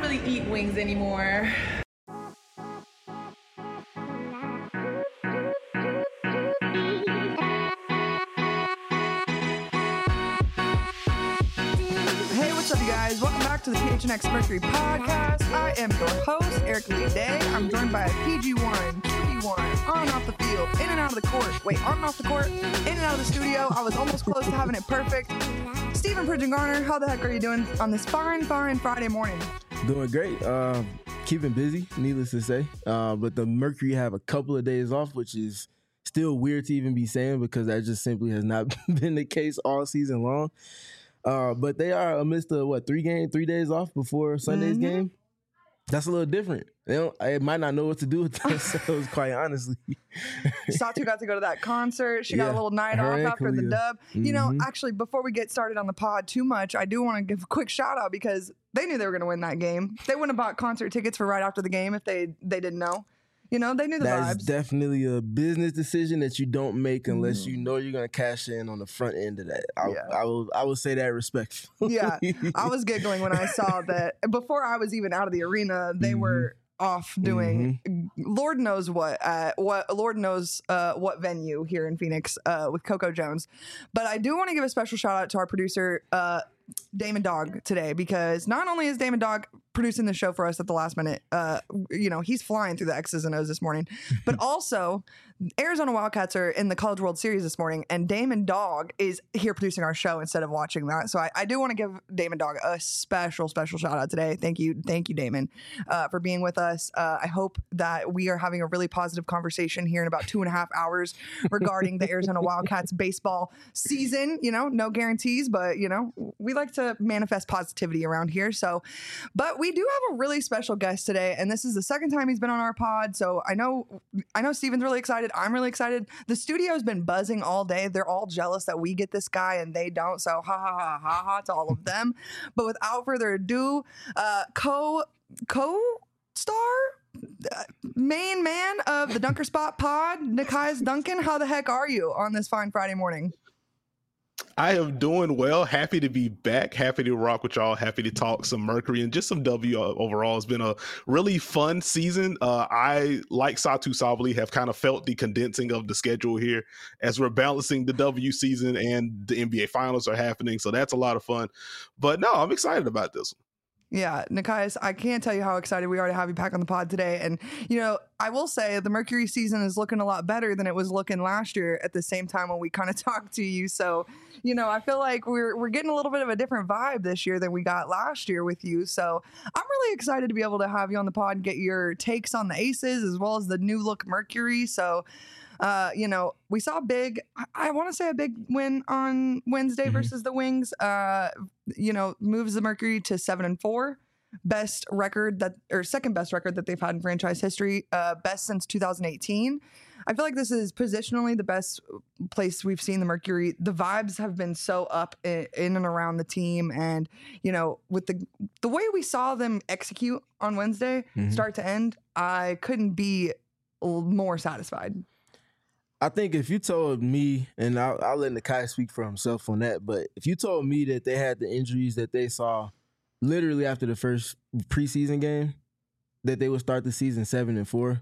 really eat wings anymore. Hey, what's up, you guys? Welcome back to the PHNX Mercury Podcast. I am your host, Eric Lee Day. I'm joined by PG1, QB1, on and off the field, in and out of the court. Wait, on and off the court, in and out of the studio. I was almost close to having it perfect. Stephen Pridgeon Garner, how the heck are you doing on this fine Friday morning? Doing great. Keeping busy, needless to say. But the Mercury have a couple of days off, which is still weird to even be saying because that just simply has not been the case all season long. But they are amidst the 3 days off before Sunday's game. That's a little different. They might not know what to do with themselves, quite honestly. Satu got to go to that concert. She got a little night off after the dub. You know, actually, before we get started on the pod too much, I do want to give a quick shout out because they knew they were going to win that game. They wouldn't have bought concert tickets for right after the game if they didn't know. You know, they knew the vibes. That's definitely a business decision that you don't make unless you know you're going to cash in on the front end of that. I will say that respectfully. Yeah, I was giggling when I saw that. Before I was even out of the arena, they were off doing Lord knows what venue here in Phoenix with Coco Jones. But I do want to give a special shout out to our producer, Damon Dog, today, because not only is Damon Dog producing the show for us at the last minute, he's flying through the X's and O's this morning, but also Arizona Wildcats are in the College World Series this morning, and Damon Dog is here producing our show instead of watching that. So I do want to give Damon Dog a special shout out today. Thank you, Damon, for being with us. I hope that we are having a really positive conversation here in about 2.5 hours regarding the Arizona Wildcats baseball season. You know, no guarantees, but you know, we like to manifest positivity around here. So, but we do have a really special guest today, and this is the second time he's been on our pod. So I know Steven's really excited. I'm really excited. The studio's been buzzing all day. They're all jealous that we get this guy and they don't. So ha to all of them. But without further ado, co-star, main man of the Dunker Spot pod, Nekias Duncan. How the heck are you on this fine Friday morning? I am doing well. Happy to be back. Happy to rock with y'all. Happy to talk some Mercury and just some W overall. It's been a really fun season. I, like Satu Sabally, have kind of felt the condensing of the schedule here as we're balancing the W season and the NBA Finals are happening. So that's a lot of fun. But no, I'm excited about this one. Yeah, Nekias, I can't tell you how excited we are to have you back on the pod today. And, you know, I will say the Mercury season is looking a lot better than it was looking last year at the same time when we kind of talked to you. So, you know, I feel like we're getting a little bit of a different vibe this year than we got last year with you. So I'm really excited to be able to have you on the pod and get your takes on the Aces as well as the new look Mercury. So, you know, we saw I want to say a big win on Wednesday versus the Wings, you know, moves the Mercury to 7-4, second best record that they've had in franchise history, best since 2018. I feel like this is positionally the best place we've seen the Mercury. The vibes have been so up in and around the team. And, you know, with the way we saw them execute on Wednesday, start to end, I couldn't be more satisfied. I think if you told me, and I'll let Nekias speak for himself on that, but if you told me that they had the injuries that they saw literally after the first preseason game, that they would start the season 7-4,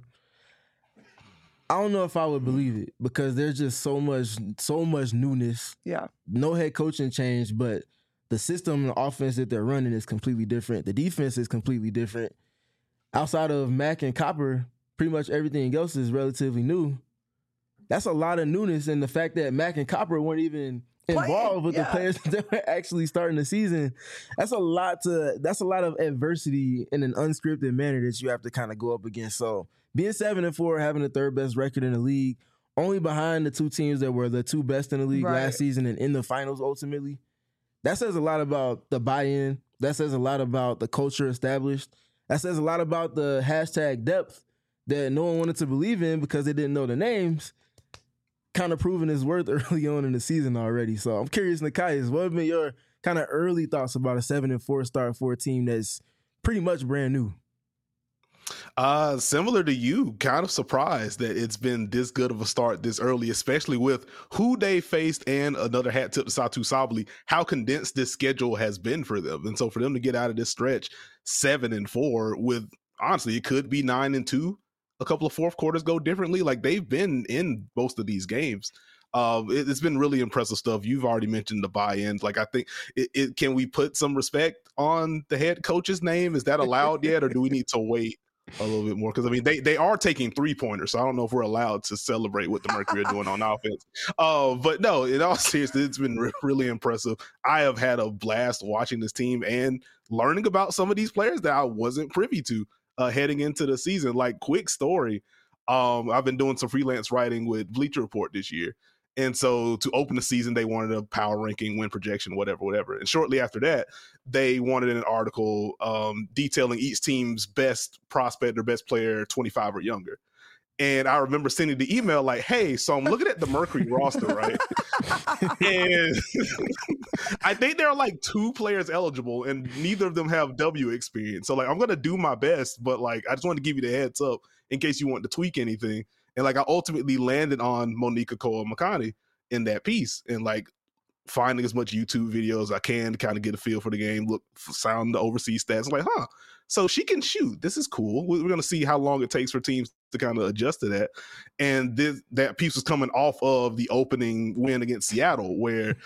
I don't know if I would believe it because there's just so much newness. Yeah. No head coaching change, but the system and the offense that they're running is completely different. The defense is completely different. Outside of Mack and Copper, pretty much everything else is relatively new. That's a lot of newness, and the fact that Mack and Copper weren't even involved with the players that were actually starting the season, that's a lot of adversity in an unscripted manner that you have to kind of go up against. So being 7-4, having the third best record in the league, only behind the two teams that were the two best in the league last season and in the finals ultimately, that says a lot about the buy-in. That says a lot about the culture established. That says a lot about the hashtag depth that no one wanted to believe in because they didn't know the names. Kind of proving his worth early on in the season already. So I'm curious, Nekias, what have been your kind of early thoughts about a 7-4 start for a team that's pretty much brand new? Similar to you, kind of surprised that it's been this good of a start this early, especially with who they faced, and another hat tip to Satu Sabali, how condensed this schedule has been for them. And so for them to get out of this stretch 7-4 with, honestly, it could be 9-2. A couple of fourth quarters go differently. Like, they've been in most of these games. It's been really impressive stuff. You've already mentioned the buy-ins. Like, I think can we put some respect on the head coach's name? Is that allowed yet, or do we need to wait a little bit more? Because I mean, they are taking 3-pointers, so I don't know if we're allowed to celebrate what the Mercury are doing on offense. But no, in all seriousness, it's been really impressive. I have had a blast watching this team and learning about some of these players that I wasn't privy to heading into the season. Like, quick story, I've been doing some freelance writing with Bleacher Report this year. And so to open the season, they wanted a power ranking, win projection, whatever. And shortly after that, they wanted an article detailing each team's best prospect or best player 25 or younger. And I remember sending the email like, hey, so I'm looking at the Mercury roster, right? And I think there are like 2 players eligible, and neither of them have W experience. So like, I'm going to do my best, but like, I just wanted to give you the heads up in case you want to tweak anything. And like, I ultimately landed on Monica Koa-Makani in that piece, and like finding as much YouTube video as I can to kind of get a feel for the game, sound the overseas stats. I'm like, so she can shoot. This is cool. We're going to see how long it takes for teams to kind of adjust to that. And that piece was coming off of the opening win against Seattle, where,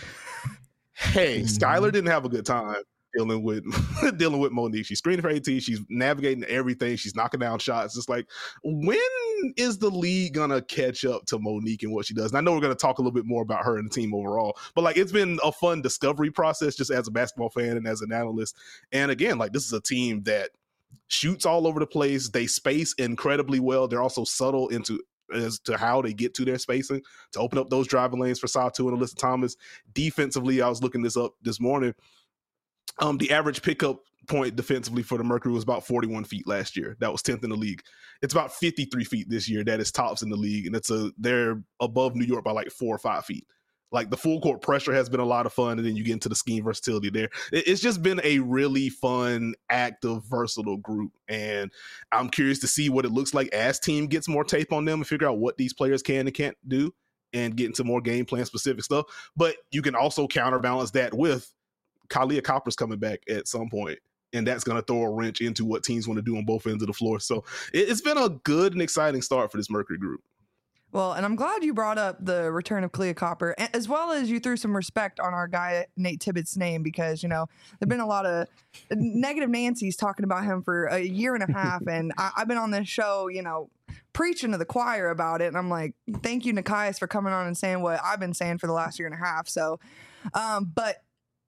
hey, Skylar didn't have a good time dealing with Monique. She's screening for AT. She's navigating everything. She's knocking down shots. It's like, when is the league gonna catch up to Monique and what she does? And I know we're gonna talk a little bit more about her and the team overall, but like, it's been a fun discovery process just as a basketball fan and as an analyst. And again, like, this is a team that shoots all over the place. They space incredibly well. They're also subtle as to how they get to their spacing to open up those driving lanes for Satu and Alyssa Thomas. Defensively, I was looking this up this morning. The average pickup point defensively for the Mercury was about 41 feet last year. That was 10th in the league. It's about 53 feet this year. That is tops in the league. And they're above New York by like 4 or 5 feet. Like, the full court pressure has been a lot of fun. And then you get into the scheme versatility there. It's just been a really fun, active, versatile group. And I'm curious to see what it looks like as team gets more tape on them and figure out what these players can and can't do and get into more game plan specific stuff. But you can also counterbalance that with Kahleah Copper's coming back at some point, and that's going to throw a wrench into what teams want to do on both ends of the floor. So it's been a good and exciting start for this Mercury group. Well, and I'm glad you brought up the return of Kahleah Copper, as well as you threw some respect on our guy Nate Tibbetts' name, because, you know, there've been a lot of negative Nancy's talking about him for a year and a half, and I've been on this show, you know, preaching to the choir about it, and I'm like, thank you, Nekias, for coming on and saying what I've been saying for the last year and a half. So, but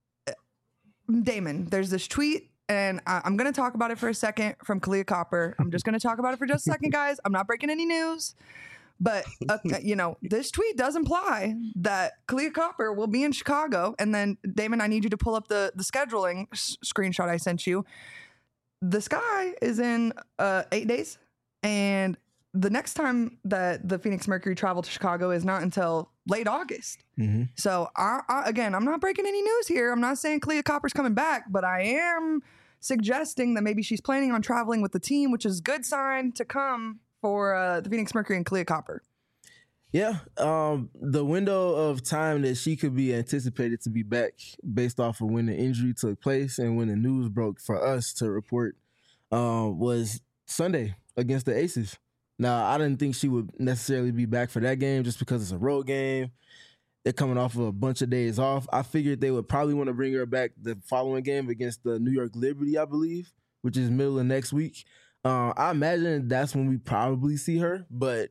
Damon, there's this tweet, and I'm going to talk about it for a second from Kahleah Copper. I'm just going to talk about it for just a second, guys. I'm not breaking any news. But, you know, this tweet does imply that Kahleah Copper will be in Chicago. And then, Damon, I need you to pull up the scheduling screenshot I sent you. The Sky is in 8 days. And the next time that the Phoenix Mercury travel to Chicago is not until late August. Mm-hmm. So, again, I'm not breaking any news here. I'm not saying Kahleah Copper's coming back, but I am suggesting that maybe she's planning on traveling with the team, which is a good sign to come for the Phoenix Mercury and Kahleah Copper. Yeah, the window of time that she could be anticipated to be back based off of when the injury took place and when the news broke for us to report was Sunday against the Aces. Now, I didn't think she would necessarily be back for that game just because it's a road game. They're coming off of a bunch of days off. I figured they would probably want to bring her back the following game against the New York Liberty, I believe, which is middle of next week. I imagine that's when we probably see her, but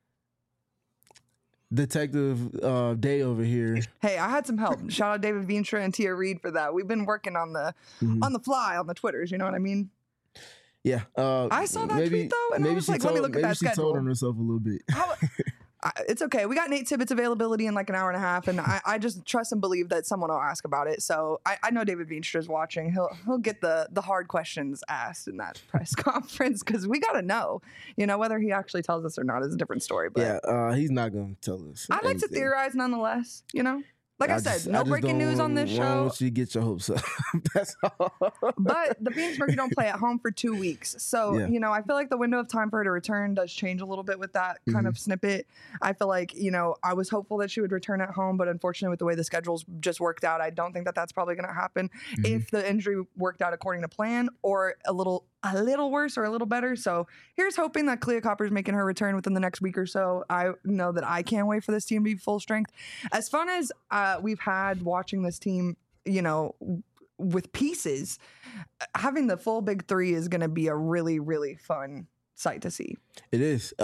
Detective Day over here. Hey, I had some help. Shout out David Veenstra and Tia Reed for that. We've been working on the fly on the Twitters. You know what I mean? Yeah. I saw that tweet though, and I was like, let me look at that schedule. Maybe she told on herself a little bit. It's okay. We got Nate Tibbetts' availability in like an hour and a half, and I just trust and believe that someone will ask about it. So I know David Veenstra is watching. He'll get the hard questions asked in that press conference, because we got to know. You know, whether he actually tells us or not is a different story. But yeah, he's not going to tell us. I like to theorize nonetheless. You know, Like I said, no breaking news on this show. I don't want you to get your hopes up. That's all. But the Phoenix Mercury don't play at home for 2 weeks. So, Yeah. you know, I feel like the window of time for her to return does change a little bit with that kind of snippet. I feel like, you know, I was hopeful that she would return at home, but unfortunately with the way the schedule's just worked out, I don't think that that's probably going to happen if the injury worked out according to plan or a little worse or a little better. So here's hoping that Kahleah Copper's making her return within the next week or so. I know that I can't wait for this team to be full strength. As fun as we've had watching this team, you know, with pieces, having the full big three is going to be a really, really fun sight to see. It is.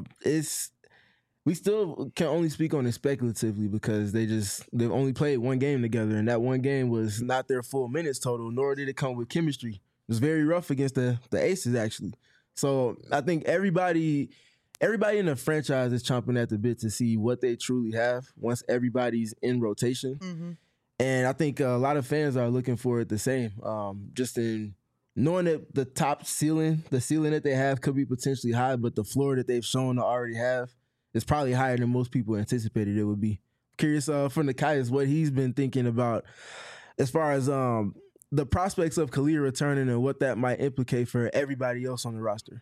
We still can only speak on it speculatively because they've only played one game together, and that one game was not their full minutes total, nor did it come with chemistry. It was very rough against the Aces, actually. So I think everybody in the franchise is chomping at the bit to see what they truly have once everybody's in rotation. And I think a lot of fans are looking for it the same. Just in knowing that the ceiling that they have could be potentially high, but the floor that they've shown to already have is probably higher than most people anticipated it would be. Curious from Nekias what he's been thinking about as far as the prospects of Kahleah returning and what that might implicate for everybody else on the roster.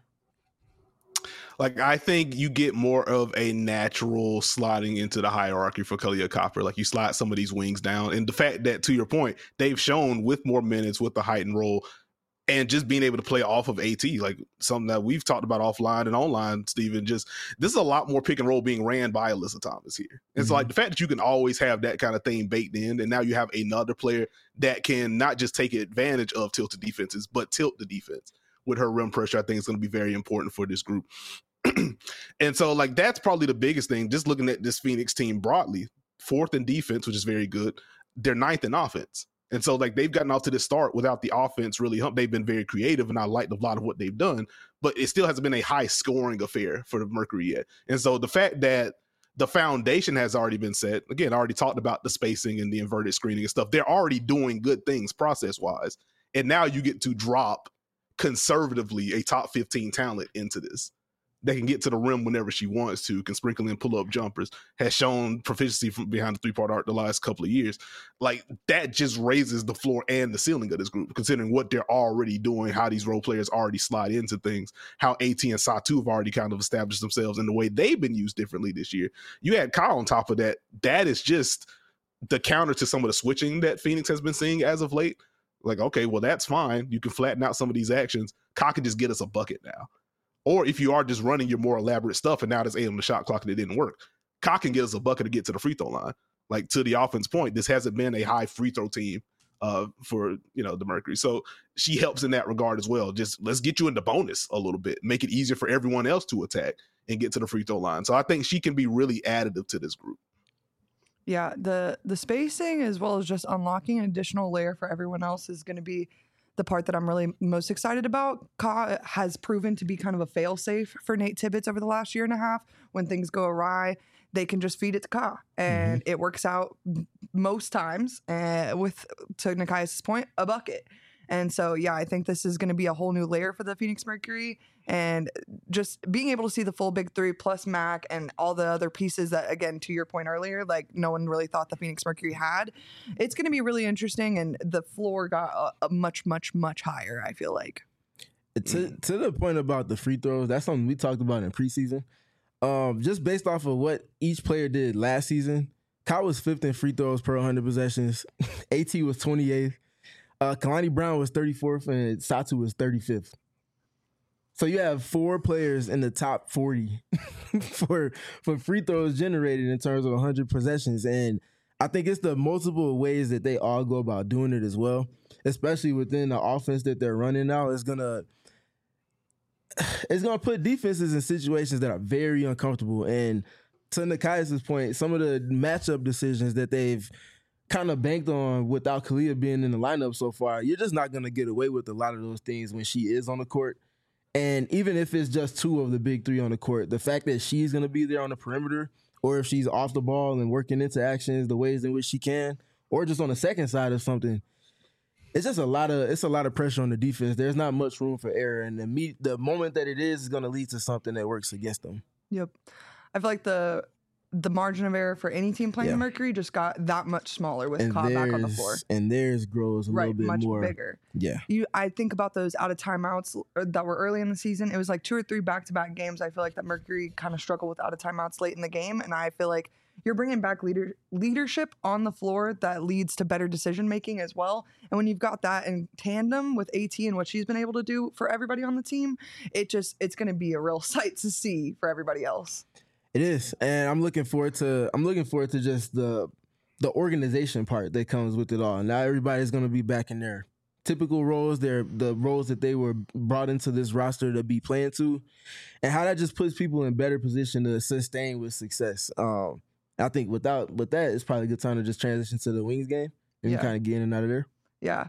Like, I think you get more of a natural sliding into the hierarchy for Kahleah Copper. Like, you slide some of these wings down. And the fact that, to your point, they've shown with more minutes, with the heightened role, and just being able to play off of AT, like something that we've talked about offline and online, Steven, just this is a lot more pick and roll being ran by Alyssa Thomas here. It's like the fact that you can always have that kind of thing baked in, and now you have another player that can not just take advantage of tilted defenses, but tilt the defense with her rim pressure. I think is going to be very important for this group. And so, like, that's probably the biggest thing. Just looking at this Phoenix team broadly, 4th in defense, which is very good. They're 9th in offense. And so, like, they've gotten off to this start without the offense really they've been very creative, and I liked a lot of what they've done, but it still hasn't been a high scoring affair for the Mercury yet. And so the fact that the foundation has already been set, again, I already talked about the spacing and the inverted screening and stuff. They're already doing good things process wise. And now you get to drop conservatively a top 15 talent into this that can get to the rim whenever she wants to, can sprinkle in pull-up jumpers, has shown proficiency from behind the three-part arc the last couple of years. Like, that just raises the floor and the ceiling of this group, considering what they're already doing, how these role players already slide into things, how AT and Satu have already kind of established themselves in the way they've been used differently this year. You add Kyle on top of that. That is just the counter to some of the switching that Phoenix has been seeing as of late. Like, okay, well, that's fine. You can flatten out some of these actions. Kyle can just get us a bucket now. Or if you are just running your more elaborate stuff and now there's the shot clock and it didn't work, Kyle can get us a bucket to get to the free throw line. Like, to the offense point, this hasn't been a high free throw team for, you know, the Mercury. So she helps in that regard as well. Just let's get you into bonus a little bit, make it easier for everyone else to attack and get to the free throw line. So I think she can be really additive to this group. Yeah, the spacing as well as just unlocking an additional layer for everyone else is going to be the part that I'm really most excited about. Ka has proven to be kind of a fail-safe for Nate Tibbetts over the last year and a half. When things go awry, they can just feed it to Ka, and it works out most times. With, to Nekias' point, a bucket. And so, yeah, I think this is going to be a whole new layer for the Phoenix Mercury. And just being able to see the full big three plus Mac and all the other pieces that, again, to your point earlier, like no one really thought the Phoenix Mercury had, it's going to be really interesting. And the floor got a much, much, much higher, I feel like. To the point about the free throws, that's something we talked about in preseason. Just based off of what each player did last season, Kyle was 5th in free throws per 100 possessions. AT was 28th. Kalani Brown was 34th and Satu was 35th. So you have 4 players in the top 40 for free throws generated in terms of 100 possessions. And I think it's the multiple ways that they all go about doing it as well, especially within the offense that they're running now. It's gonna put defenses in situations that are very uncomfortable. And to Nekias' point, some of the matchup decisions that they've kind of banked on without Kahleah being in the lineup so far, you're just not going to get away with a lot of those things when she is on the court. And even if it's just 2 of the big 3 on the court, the fact that she's going to be there on the perimeter, or if she's off the ball and working into actions the ways in which she can, or just on the second side of something, it's just a lot of pressure on the defense. There's not much room for error, and the moment that it is going to lead to something that works against them. Yep. I feel like the the margin of error for any team playing Yeah. the Mercury just got that much smaller with Cobb back on the floor. And theirs grows a little bit much more bigger. Yeah. I think about those out of timeouts that were early in the season. It was like 2 or 3 back-to-back games. I feel like that Mercury kind of struggled with out of timeouts late in the game, and I feel like you're bringing back leadership on the floor that leads to better decision making as well. And when you've got that in tandem with AT and what she's been able to do for everybody on the team, it's going to be a real sight to see for everybody else. It is, and I'm looking forward to just the organization part that comes with it all. Now everybody's going to be back in their typical roles, the roles that they were brought into this roster to be playing to, and how that just puts people in better position to sustain with success. I think with that, it's probably a good time to just transition to the Wings game and kind of get in and out of there. Yeah.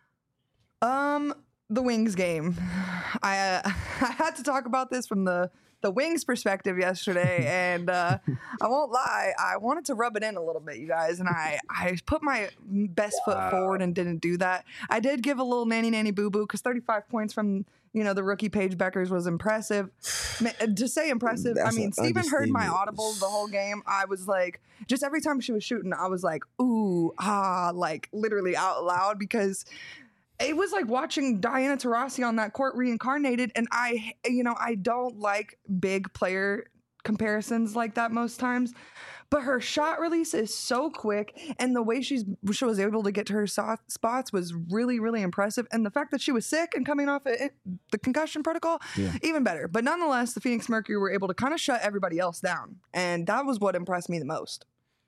The Wings game. I had to talk about this from the Wings perspective yesterday, and I won't lie, I wanted to rub it in a little bit, you guys, and I put my best foot forward and didn't do that. I did give a little nanny boo-boo because 35 points from the rookie Paige Beckers was impressive. To say impressive, I mean, Steven heard my audible the whole game. I was like, just every time she was shooting, I was like, ooh, like literally out loud, because it was like watching Diana Taurasi on that court reincarnated. And I don't like big player comparisons like that most times, but her shot release is so quick, and the way she was able to get to her spots was really, really impressive. And the fact that she was sick and coming off the concussion protocol, even better. But nonetheless, the Phoenix Mercury were able to kind of shut everybody else down, and that was what impressed me the most.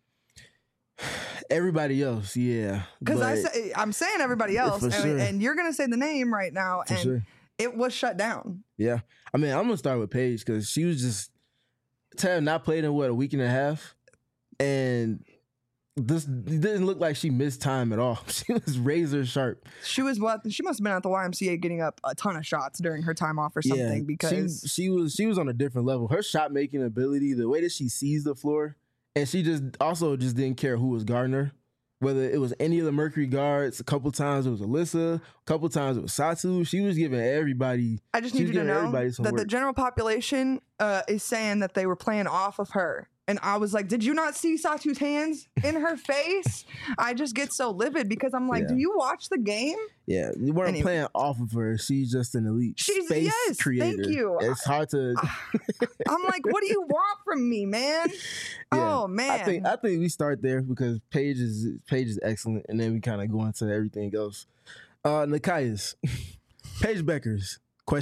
Everybody else, yeah. Because I'm saying everybody else, and you're gonna say the name right now, and it was shut down. Yeah, I mean, I'm gonna start with Paige because she was just not played in a week and a half. And this didn't look like she missed time at all. She was razor sharp. She must have been at the YMCA getting up a ton of shots during her time off or something, because she was on a different level. Her shot making ability, the way that she sees the floor, and she just didn't care who was guarding her. Whether it was any of the Mercury guards, a couple times it was Alyssa, a couple times it was Satu. She was giving everybody. I just need you to know that the general population is saying that they were playing off of her. And I was like, did you not see Satu's hands in her face? I just get so livid because I'm like, do you watch the game? Yeah, you weren't playing off of her. She's just an elite space creator. Thank you. It's hard to. I'm like, what do you want from me, man? Yeah, oh man. I think we start there because Paige is excellent, and then we kind of go into everything else. Nekias, Paige Beckers ?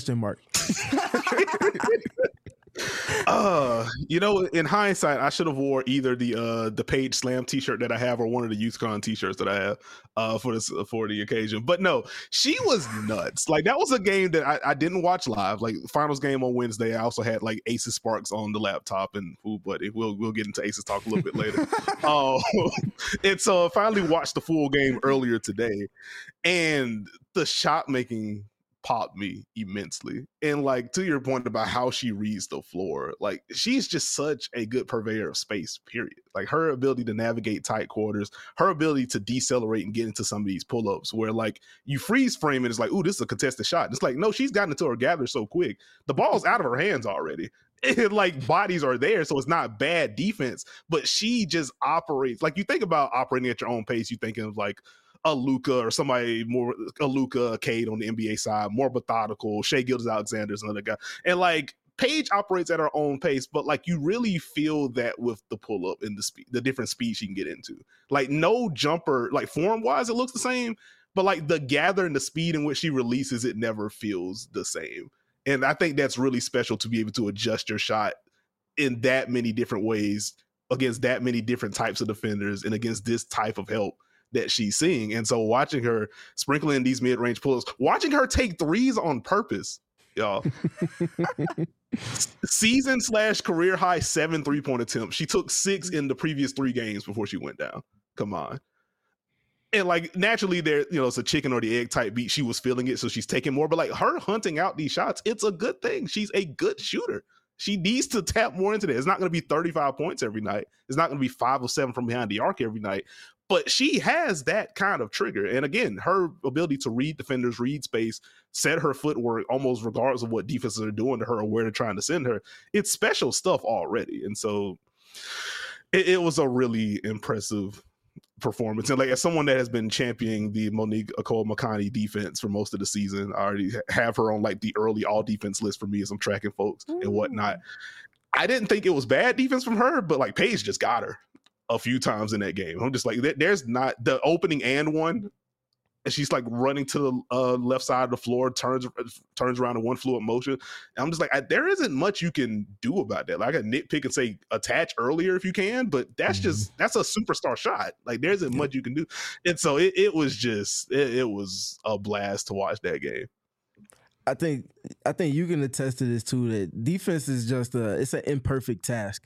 In hindsight, I should have wore either the Paige Slam t-shirt that I have or one of the YouthCon t-shirts that I have for the occasion. But no, she was nuts. Like, that was a game that I didn't watch live. Like, finals game on Wednesday, I also had like Aces Sparks on the laptop, and we'll get into Aces talk a little bit later. And so I finally watched the full game earlier today, and the shot making popped me immensely. And like, to your point about how she reads the floor, like, she's just such a good purveyor of space, period. Like, her ability to navigate tight quarters, her ability to decelerate and get into some of these pull-ups where like you freeze frame it, it's like, ooh, this is a contested shot. It's like, no, she's gotten into her gather so quick. The ball's out of her hands already. And like, bodies are there, so it's not bad defense, but she just operates. Like, you think about operating at your own pace, you thinking of like a Luka or somebody more, a Luka, Cade on the NBA side, more methodical. Shai Gilgeous-Alexander's another guy. And like, Paige operates at her own pace, but like, you really feel that with the pull up and the speed, the different speeds she can get into. Like, no jumper, like form wise, it looks the same, but like the gather and the speed in which she releases it never feels the same. And I think that's really special to be able to adjust your shot in that many different ways against that many different types of defenders and against this type of help that she's seeing. And so watching her sprinkle in these mid-range pulls, watching her take threes on purpose, y'all. Season/career high 7 3-point attempts. She took 6 in the previous 3 games before she went down. Come on. And like, naturally there, it's a chicken or the egg type beat. She was feeling it, so she's taking more. But like, her hunting out these shots, it's a good thing. She's a good shooter. She needs to tap more into that. It's not going to be 35 points every night. It's not going to be 5 or 7 from behind the arc every night. But she has that kind of trigger. And again, her ability to read defenders, read space, set her footwork almost regardless of what defenses are doing to her or where they're trying to send her, it's special stuff already. And so It was a really impressive performance. And like, as someone that has been championing the Monique Okoro-Makani defense for most of the season, I already have her on like the early all defense list for me as I'm tracking folks and whatnot. I didn't think it was bad defense from her, but like Paige just got her a few times in that game. I'm just like, there's not the opening and one. And she's like running to the left side of the floor, turns around in one fluid motion. And I'm just like, there isn't much you can do about that. Like, I can nitpick and say attach earlier if you can, but that's that's a superstar shot. Like, there isn't much you can do. And so it was a blast to watch that game. I think you can attest to this too, that defense is just it's an imperfect task.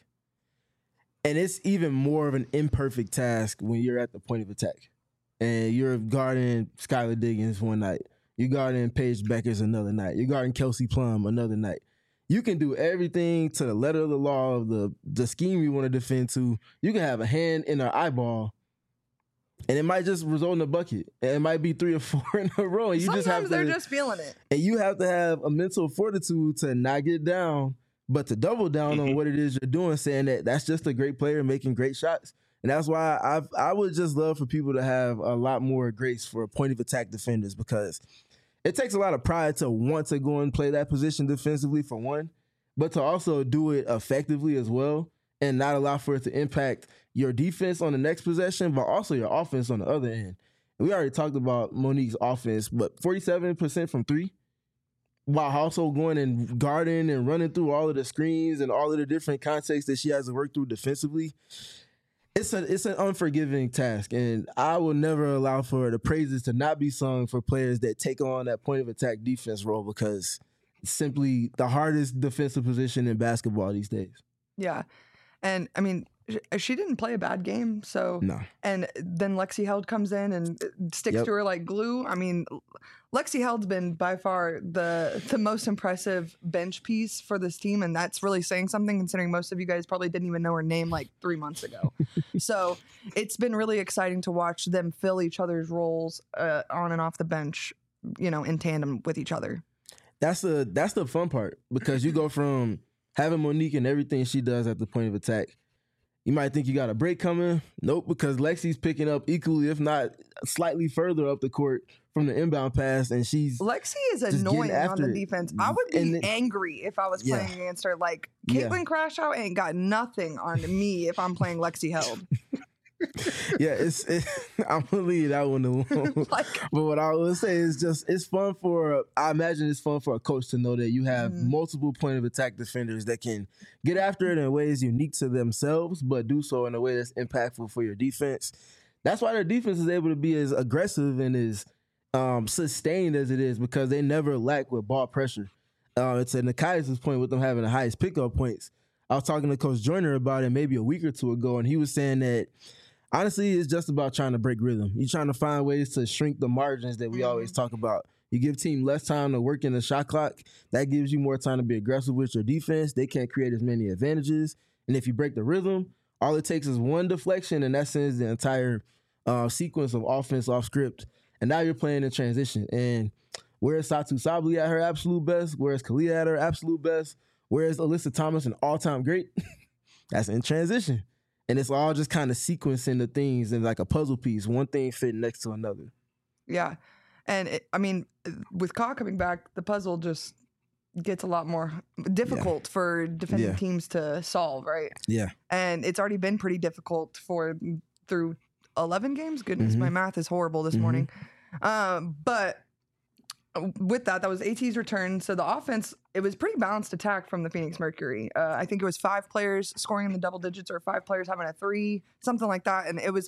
And it's even more of an imperfect task when you're at the point of attack. And you're guarding Skylar Diggins one night. You're guarding Paige Beckers another night. You're guarding Kelsey Plum another night. You can do everything to the letter of the law of the scheme you want to defend to. You can have a hand in an eyeball, and it might just result in a bucket. And it might be 3 or 4 in a row. And Sometimes they're just feeling it. And you have to have a mental fortitude to not get down, but to double down on what it is you're doing, saying that that's just a great player making great shots. And that's why I would just love for people to have a lot more grace for point of attack defenders, because it takes a lot of pride to want to go and play that position defensively for one, but to also do it effectively as well and not allow for it to impact your defense on the next possession, but also your offense on the other end. And we already talked about Monique's offense, but 47% from 3, while also going and guarding and running through all of the screens and all of the different contexts that she has to work through defensively. It's an unforgiving task, and I will never allow for the praises to not be sung for players that take on that point of attack defense role, because it's simply the hardest defensive position in basketball these days. Yeah. And I mean, she didn't play a bad game. So, no. And then Lexi Held comes in and sticks to her like glue. I mean, Lexi Held's been by far the most impressive bench piece for this team. And that's really saying something, considering most of you guys probably didn't even know her name like 3 months ago. So it's been really exciting to watch them fill each other's roles on and off the bench, you know, in tandem with each other. That's the fun part, because you go from having Monique and everything she does at the point of attack. You might think you got a break coming. Nope, because Lexi's picking up equally, if not slightly further up the court from the inbound pass, and Lexi is annoying on the defense. I would be angry if I was playing against her. Like, Caitlin Crashout ain't got nothing on me if I'm playing Lexi Held. I'm gonna leave that one alone. But what I will say is just, I imagine it's fun for a coach to know that you have multiple point of attack defenders that can get after it in ways unique to themselves, but do so in a way that's impactful for your defense. That's why their defense is able to be as aggressive and as sustained as it is, because they never lack with ball pressure. It's at Nekias' point with them having the highest pickup points. I was talking to Coach Joyner about it maybe a week or two ago, and he was saying that honestly, it's just about trying to break rhythm. You're trying to find ways to shrink the margins that we always talk about. You give team less time to work in the shot clock. That gives you more time to be aggressive with your defense. They can't create as many advantages. And if you break the rhythm, all it takes is one deflection, and that sends the entire sequence of offense off script. And now you're playing in transition. And whereas Satou Sabally at her absolute best, whereas Kalia at her absolute best, whereas Alyssa Thomas an all-time great, that's in transition. And it's all just kind of sequencing the things in like a puzzle piece, one thing fitting next to another. Yeah. And with Ka coming back, the puzzle just gets a lot more difficult for defending teams to solve, right? Yeah. And it's already been pretty difficult through 11 games. Goodness, my math is horrible this morning. But with that was AT's return. So the offense, it was pretty balanced attack from the Phoenix Mercury. I think it was 5 players scoring in the double digits, or 5 players having a 3, something like that. And it was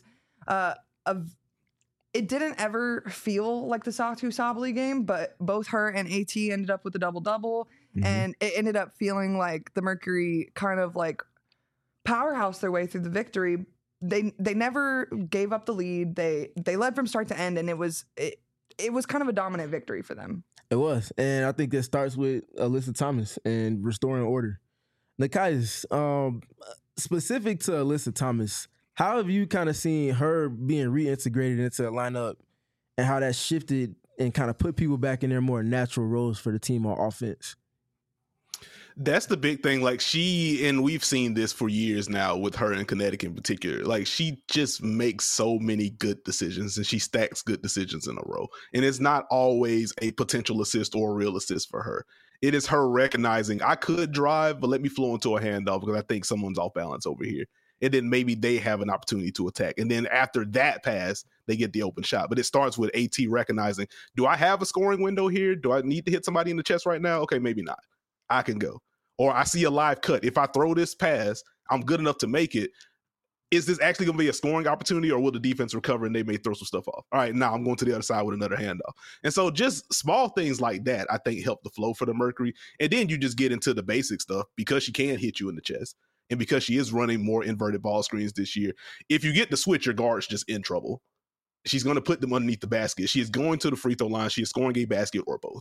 it didn't ever feel like the Satou Sabally game, but both her and AT ended up with a double-double. And it ended up feeling like the Mercury kind of like powerhouse their way through the victory. They never gave up the lead. They led from start to end, and it was kind of a dominant victory for them. It was. And I think that starts with Alyssa Thomas and restoring order. Nekias, specific to Alyssa Thomas, how have you kind of seen her being reintegrated into the lineup, and how that shifted and kind of put people back in their more natural roles for the team on offense? That's the big thing. Like and we've seen this for years now with her in Connecticut in particular. Like she just makes so many good decisions and she stacks good decisions in a row. And it's not always a potential assist or a real assist for her. It is her recognizing I could drive, but let me flow into a handoff because I think someone's off balance over here. And then maybe they have an opportunity to attack. And then after that pass, they get the open shot. But it starts with AT recognizing, do I have a scoring window here? Do I need to hit somebody in the chest right now? Okay, maybe not. I can go. Or I see a live cut. If I throw this pass, I'm good enough to make it. Is this actually going to be a scoring opportunity or will the defense recover and they may throw some stuff off? All right, now I'm going to the other side with another handoff. And so just small things like that, I think, help the flow for the Mercury. And then you just get into the basic stuff because she can hit you in the chest and because she is running more inverted ball screens this year. If you get the switch, your guard's just in trouble. She's going to put them underneath the basket. She is going to the free throw line. She is scoring a basket or both.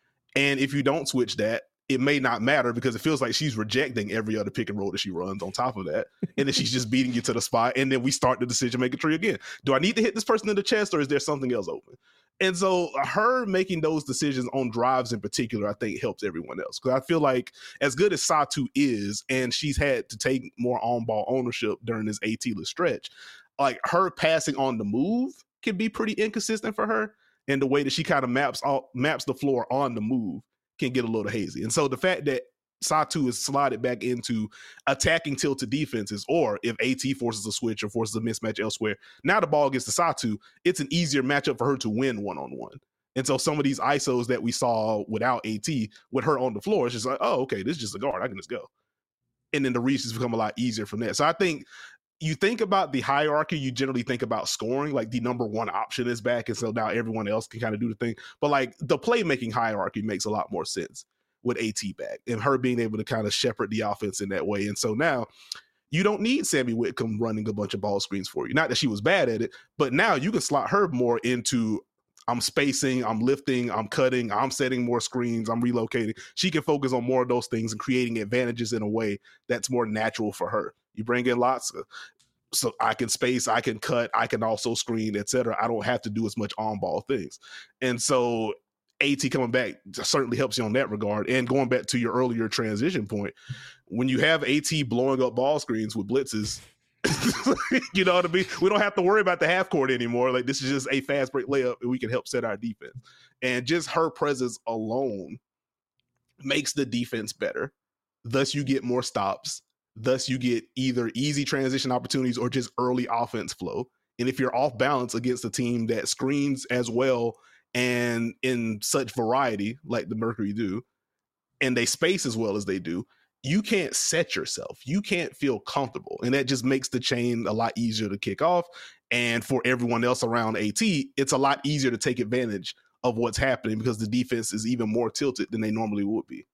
And if you don't switch that, it may not matter because it feels like she's rejecting every other pick and roll that she runs on top of that. And then she's just beating you to the spot. And then we start the decision-making tree again. Do I need to hit this person in the chest or is there something else open? And so her making those decisions on drives in particular, I think helps everyone else. Because I feel like as good as Satou is, and she's had to take more on-ball ownership during this AT-less stretch, like her passing on the move can be pretty inconsistent for her. And the way that she kind of maps the floor on the move can get a little hazy. And so the fact that Satou is slotted back into attacking tilted defenses, or if AT forces a switch or forces a mismatch elsewhere, now the ball gets to Satou, it's an easier matchup for her to win one-on-one. And so some of these ISOs that we saw without AT, with her on the floor, it's just like, oh, okay, this is just a guard. I can just go. And then the reaches become a lot easier from that. So I think you think about the hierarchy, you generally think about scoring, like the number one option is back. And so now everyone else can kind of do the thing. But like the playmaking hierarchy makes a lot more sense with AT back and her being able to kind of shepherd the offense in that way. And so now you don't need Sammy Whitcomb running a bunch of ball screens for you. Not that she was bad at it, but now you can slot her more into I'm spacing, I'm lifting, I'm cutting, I'm setting more screens, I'm relocating. She can focus on more of those things and creating advantages in a way that's more natural for her. You bring in Latza, so I can space, I can cut, I can also screen, etc. I don't have to do as much on-ball things. And so AT coming back certainly helps you on that regard. And going back to your earlier transition point, when you have AT blowing up ball screens with blitzes, you know what I mean? We don't have to worry about the half court anymore. Like this is just a fast break layup and we can help set our defense. And just her presence alone makes the defense better. Thus you get more stops. Thus you get either easy transition opportunities or just early offense flow. And if you're off balance against a team that screens as well and in such variety like the Mercury do, and they space as well as they do, you can't set yourself. You can't feel comfortable. And that just makes the chain a lot easier to kick off. And for everyone else around AT, it's a lot easier to take advantage of what's happening because the defense is even more tilted than they normally would be.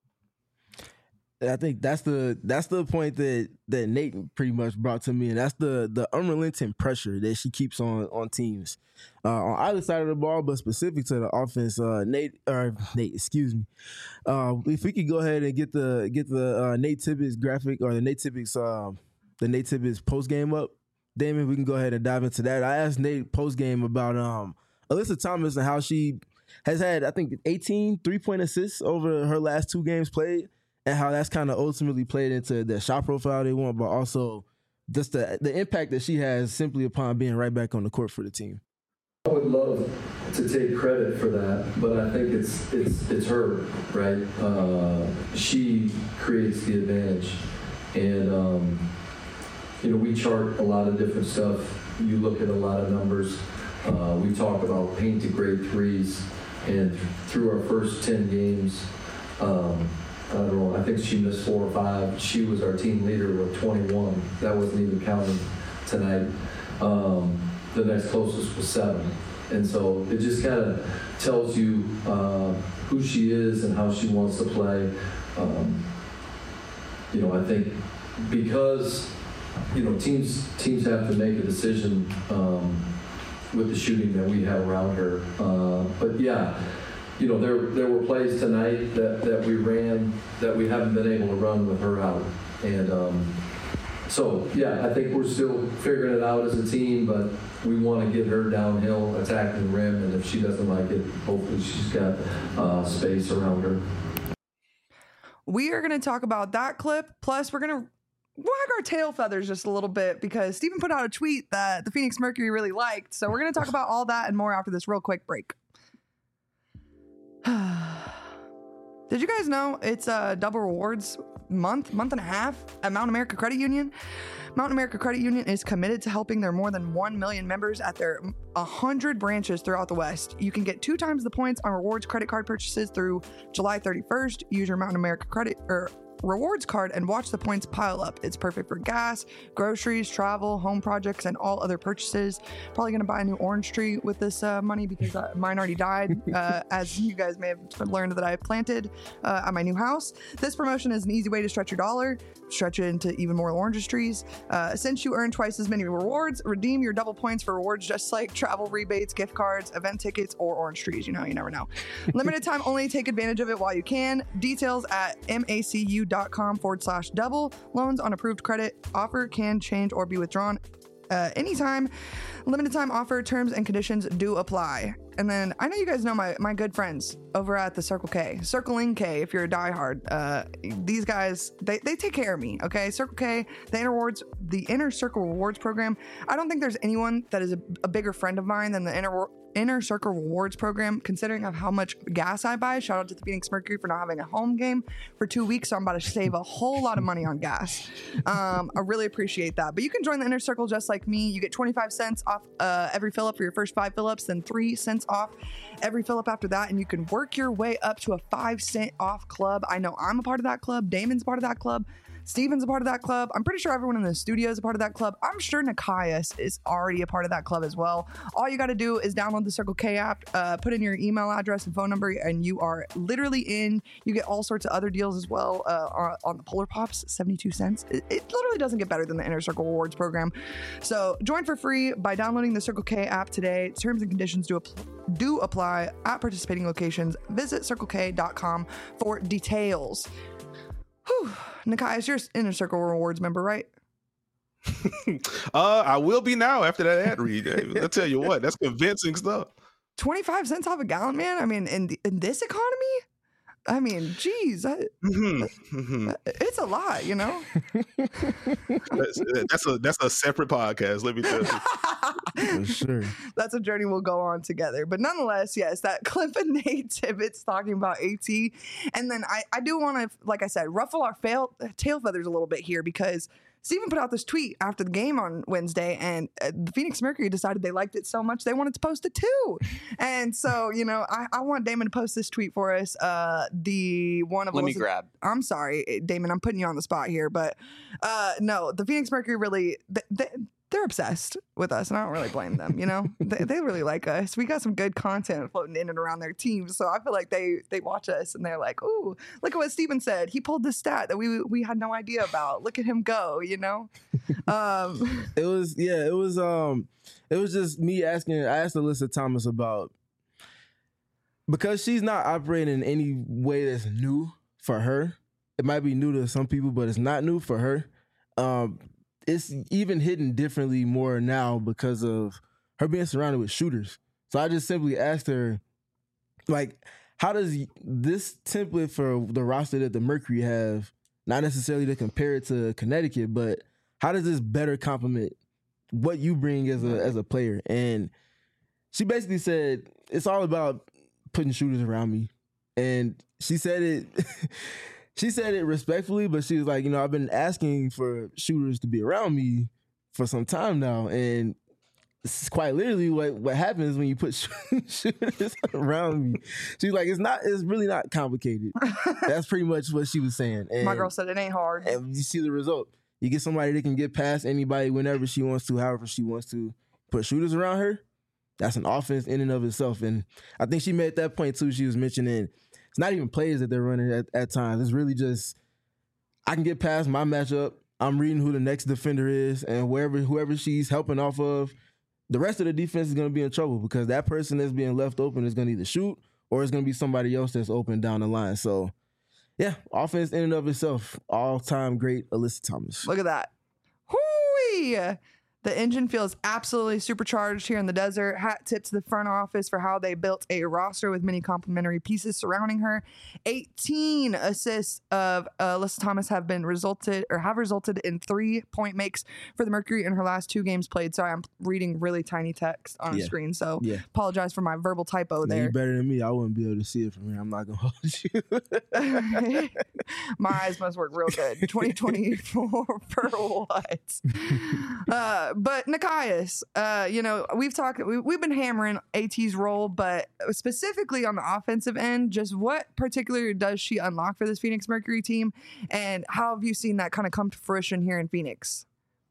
I think that's the point that Nate pretty much brought to me, and that's the unrelenting pressure that she keeps on teams on either side of the ball, but specific to the offense. Nate, excuse me. If we could go ahead and get the Nate Tibbetts graphic or the Nate Tibbetts post game up, Damon, we can go ahead and dive into that. I asked Nate post game about Alyssa Thomas and how she has had, I think, 18 3-point assists over her last 2 games played. And how that's kind of ultimately played into the shot profile they want, but also just the impact that she has simply upon being right back on the court for the team. I would love to take credit for that, but I think it's her, right? She creates the advantage, and we chart a lot of different stuff. You look at a lot of numbers. We talk about paint to grade threes, and through our first 10 games. I don't know, I think she missed 4 or 5. She was our team leader with 21. That wasn't even counting tonight. The next closest was 7. And so it just kind of tells you who she is and how she wants to play. I think because, teams have to make a decision with the shooting that we have around her. But yeah, there were plays tonight that we ran that we haven't been able to run with her out. And so, yeah, I think we're still figuring it out as a team, but we want to get her downhill, attacking the rim, and if she doesn't like it, hopefully she's got space around her. We are going to talk about that clip. Plus, we're going to wag our tail feathers just a little bit because Steven put out a tweet that the Phoenix Mercury really liked. So we're going to talk about all that and more after this real quick break. Did you guys know it's a double rewards month and a half at Mountain America Credit Union? Mountain America Credit Union is committed to helping their more than 1 million members at their 100 branches throughout the West. You can get 2 times the points on rewards credit card purchases through July 31st. Use your Mountain America Credit or rewards card and watch the points pile up. It's perfect for gas, groceries, travel, home projects, and all other purchases. Probably going to buy a new orange tree with this money because mine already died, as you guys may have learned that I planted at my new house. This promotion is an easy way to stretch your dollar, stretch it into even more orange trees. Since you earn twice as many rewards, redeem your double points for rewards just like travel rebates, gift cards, event tickets, or orange trees. You know, you never know. Limited time only. Take advantage of it while you can. Details at macu.com/double. Loans on approved credit. Offer can change or be withdrawn anytime. Limited time offer. Terms and conditions do apply. And then I know you guys know my good friends over at the Circle K. Circling K, if you're a diehard. These guys, they take care of me, okay? Circle K, the Inner Circle Rewards program. I don't think there's anyone that is a bigger friend of mine than the Inner Circle Rewards program, considering of how much gas I buy. Shout out to the Phoenix Mercury for not having a home game for 2 weeks, so I'm about to save a whole lot of money on gas. I really appreciate that. But you can join the Inner Circle just like me. You get 25 cents off every fill up for your first 5 fill ups, then 3 cents off every fill up after that, and you can work your way up to a 5 cent off club. I know I'm a part of that club. Damon's a part of that club. Steven's a part of that club. I'm pretty sure everyone in the studio is a part of that club. I'm sure Nikias is already a part of that club as well. All you got to do is download the Circle K app, put in your email address and phone number, and you are literally in. You get all sorts of other deals as well on the Polar Pops, 72 cents. It literally doesn't get better than the Inner Circle Rewards program. So join for free by downloading the Circle K app today. Terms and conditions do apply at participating locations. Visit circlek.com for details. Whew. Nikias, you're Inner Circle Rewards member, right? I will be now after that ad read. I'll tell you what, that's convincing stuff. 25 cents off a gallon, man. I mean, in this economy, I mean, geez, it's a lot, you know. That's a separate podcast. Let me tell you. For sure. That's a journey we'll go on together. But nonetheless, yes, that clip of Nate Tibbetts talking about AT. And then I do want to, like I said, ruffle our tail feathers a little bit here because Steven put out this tweet after the game on Wednesday, and the Phoenix Mercury decided they liked it so much they wanted to post it too. And so, you know, I want Damon to post this tweet for us. The one of Let me grab. I'm sorry, Damon, I'm putting you on the spot here, but no, the Phoenix Mercury really they're obsessed with us, and I don't really blame them. You know, they really like us. We got some good content floating in and around their team, so I feel like they watch us and they're like, "Ooh, look at what Steven said. He pulled this stat that we had no idea about. Look at him go." You know, it was just me asking. I asked Alyssa Thomas about, because she's not operating in any way that's new for her. It might be new to some people, but it's not new for her. It's even hidden differently more now because of her being surrounded with shooters. So I just simply asked her, like, how does this template for the roster that the Mercury have, not necessarily to compare it to Connecticut, but how does this better complement what you bring as a player? And she basically said, it's all about putting shooters around me. And she said it... She said it respectfully, but she was like, you know, I've been asking for shooters to be around me for some time now. And this is quite literally what happens when you put shooters around me. She's like, it's really not complicated. That's pretty much what she was saying. And, my girl said it ain't hard. And you see the result. You get somebody that can get past anybody whenever she wants to, however she wants to. Put shooters around her, that's an offense in and of itself. And I think she made that point too. She was mentioning it's not even plays that they're running at times. It's really just, I can get past my matchup. I'm reading who the next defender is, and whoever she's helping off of, the rest of the defense is going to be in trouble because that person that's being left open is going to either shoot or it's going to be somebody else that's open down the line. So, yeah, offense in and of itself, all-time great Alyssa Thomas. Look at that. Hoo-wee! The engine feels absolutely supercharged here in the desert. Hat tip to the front office for how they built a roster with many complementary pieces surrounding her. 18 assists of Alyssa Thomas have resulted in 3-point makes for the Mercury in her last 2 games played. Sorry, I'm reading really tiny text on a screen, so apologize for my verbal typo there. You're better than me. I wouldn't be able to see it from here. I'm not gonna hold you. My eyes must work real good. 2024 for what? But Nekias, we've been hammering AT's role, but specifically on the offensive end, just what particularly does she unlock for this Phoenix Mercury team, and how have you seen that kind of come to fruition here in Phoenix?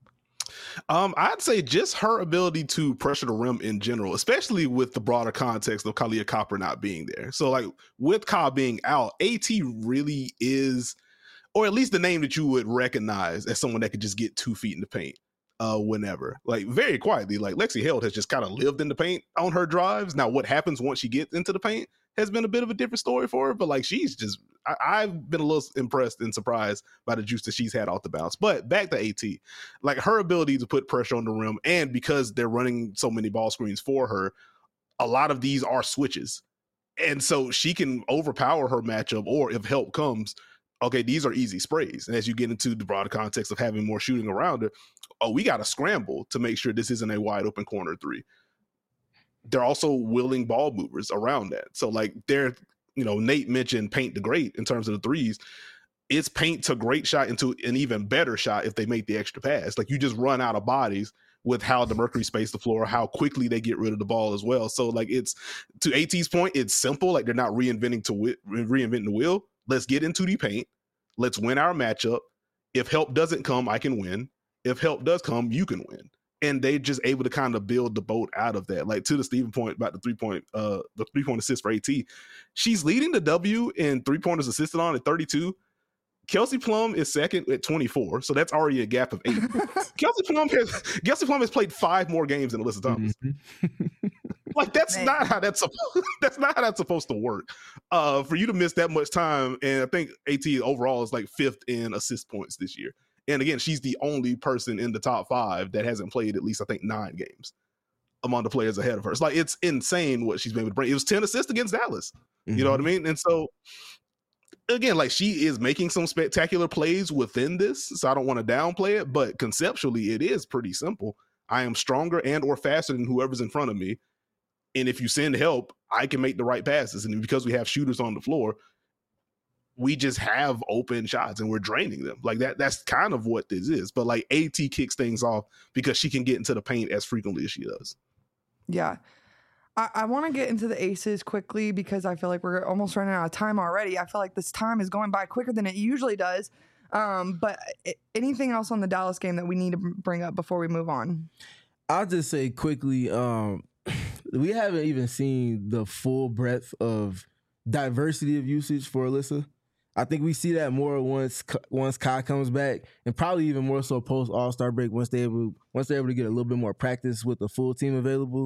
I'd say just her ability to pressure the rim in general, especially with the broader context of Kahleah Copper not being there. So, like, with Ka being out, AT really is, or at least the name that you would recognize as someone that could just get 2 feet in the paint whenever. Like, very quietly, like, Lexi Held has just kind of lived in the paint on her drives. Now, what happens once she gets into the paint has been a bit of a different story for her, but like, she's just, I've been a little impressed and surprised by the juice that she's had off the bounce. But back to AT, like, her ability to put pressure on the rim, and because they're running so many ball screens for her, a lot of these are switches. And so she can overpower her matchup, or if help comes, okay, these are easy sprays. And as you get into the broader context of having more shooting around her, we got to scramble to make sure this isn't a wide open corner 3. They're also willing ball movers around that. So, like, Nate mentioned paint to great in terms of the threes. It's paint to great shot into an even better shot if they make the extra pass. Like, you just run out of bodies with how the Mercury space the floor, how quickly they get rid of the ball as well. So, like, it's, to AT's point, it's simple. Like, they're not reinventing the wheel. Let's get into the paint. Let's win our matchup. If help doesn't come, I can win. If help does come, you can win. And they just able to kind of build the boat out of that. Like, to the Steven point about the 3-point assist for AT, she's leading the W in 3-pointers assisted on at 32. Kelsey Plum is second at 24, so that's already a gap of 8. Kelsey Plum has played 5 more games than Alyssa Thomas. Mm-hmm. Like, that's not how that's supposed to work. For you to miss that much time, and I think AT overall is like 5th in assist points this year. And again, she's the only person in the top 5 that hasn't played at least, I think, 9 games among the players ahead of her. It's like, it's insane what she's been able to bring. It was 10 assists against Dallas. Mm-hmm. You know what I mean? And so, again, like, she is making some spectacular plays within this, so I don't want to downplay it, but conceptually, it is pretty simple. I am stronger and or faster than whoever's in front of me. And if you send help, I can make the right passes. And because we have shooters on the floor, we just have open shots and we're draining them. Like, that's kind of what this is. But like, AT kicks things off because she can get into the paint as frequently as she does. Yeah. I want to get into the aces quickly because I feel like we're almost running out of time already. I feel like this time is going by quicker than it usually does. But anything else on the Dallas game that we need to bring up before we move on? I'll just say quickly, we haven't even seen the full breadth of diversity of usage for Alyssa. I think we see that more once Kai comes back, and probably even more so post All-Star break once they're able to get a little bit more practice with the full team available.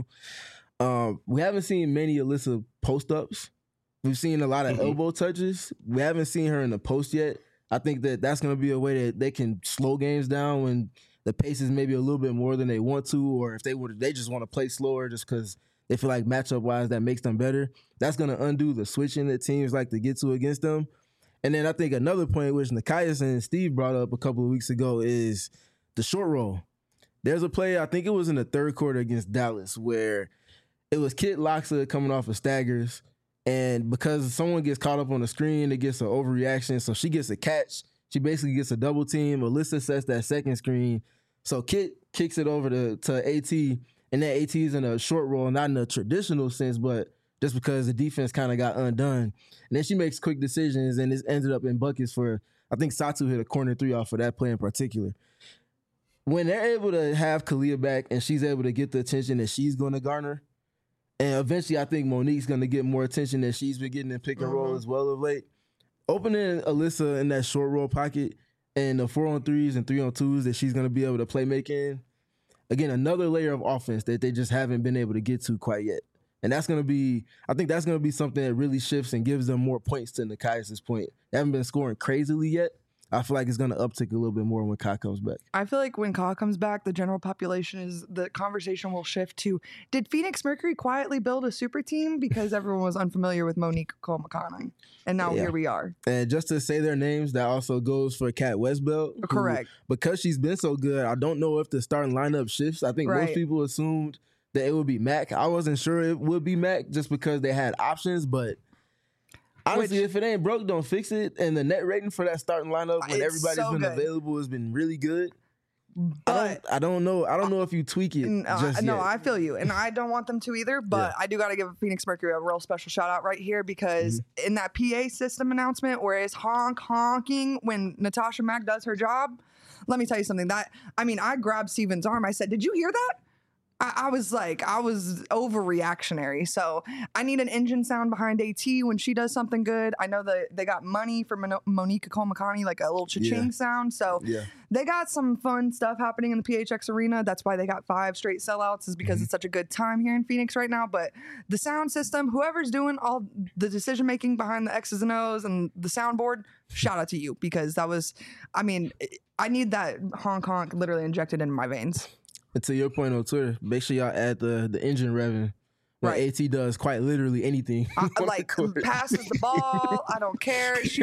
We haven't seen many Alyssa post-ups. We've seen a lot of elbow touches. We haven't seen her in the post yet. I think that's going to be a way that they can slow games down when the pace is maybe a little bit more than they want to, or if they just want to play slower just because they feel like matchup-wise that makes them better. That's going to undo the switching that teams like to get to against them. And then I think another point which Nekias and Steve brought up a couple of weeks ago is the short roll. There's a play, I think it was in the 3rd quarter against Dallas, where it was Kit Loxa coming off of staggers, and because someone gets caught up on the screen, it gets an overreaction, so she gets a catch. She basically gets a double team. Alyssa sets that second screen, so Kit kicks it over to AT, and then AT is in a short roll, not in a traditional sense, but just because the defense kind of got undone. And then she makes quick decisions, and it ended up in buckets for, I think Satu hit a corner 3 off of that play in particular. When they're able to have Kahleah back and she's able to get the attention that she's going to garner, and eventually I think Monique's going to get more attention that she's been getting in pick and roll as well of late, opening Alyssa in that short roll pocket and the 4-on-3s and 3-on-2s that she's going to be able to play make in, again, another layer of offense that they just haven't been able to get to quite yet. And that's going to be, I think that's going to be something that really shifts and gives them more points to Nekias' point. They haven't been scoring crazily yet, I feel like it's going to uptick a little bit more when Kai comes back. I feel like when Ka comes back, the general population the conversation will shift to, did Phoenix Mercury quietly build a super team? Because everyone was unfamiliar with Monique Cole-McConnell. And now here we are. And just to say their names, that also goes for Kat Westbelt. who, Correct. because she's been so good, I don't know if the starting lineup shifts. I think most people assumed that it would be Mac. I wasn't sure it would be Mac just because they had options, but honestly, if it ain't broke, don't fix it. And the net rating for that starting lineup when everybody's been available has been really good. But I don't know. I don't know if you tweak it. No, I feel you, and I don't want them to either. But I do got to give Phoenix Mercury a real special shout out right here because in that PA system announcement where it's honking when Natasha Mack does her job, let me tell you something. I grabbed Steven's arm. I said, "Did you hear that?" I was overreactionary. So I need an engine sound behind AT when she does something good. I know that they got money for Monique Cole-McConnell, like a little cha-ching sound. So they got some fun stuff happening in the PHX arena. That's why they got 5 straight sellouts, is because it's such a good time here in Phoenix right now. But the sound system, whoever's doing all the decision making behind the X's and O's and the soundboard, shout out to you, because that was, I need that honk literally injected into my veins. And to your point on Twitter, make sure y'all add the engine revving when AT does quite literally anything. Like passes the ball. I don't care. She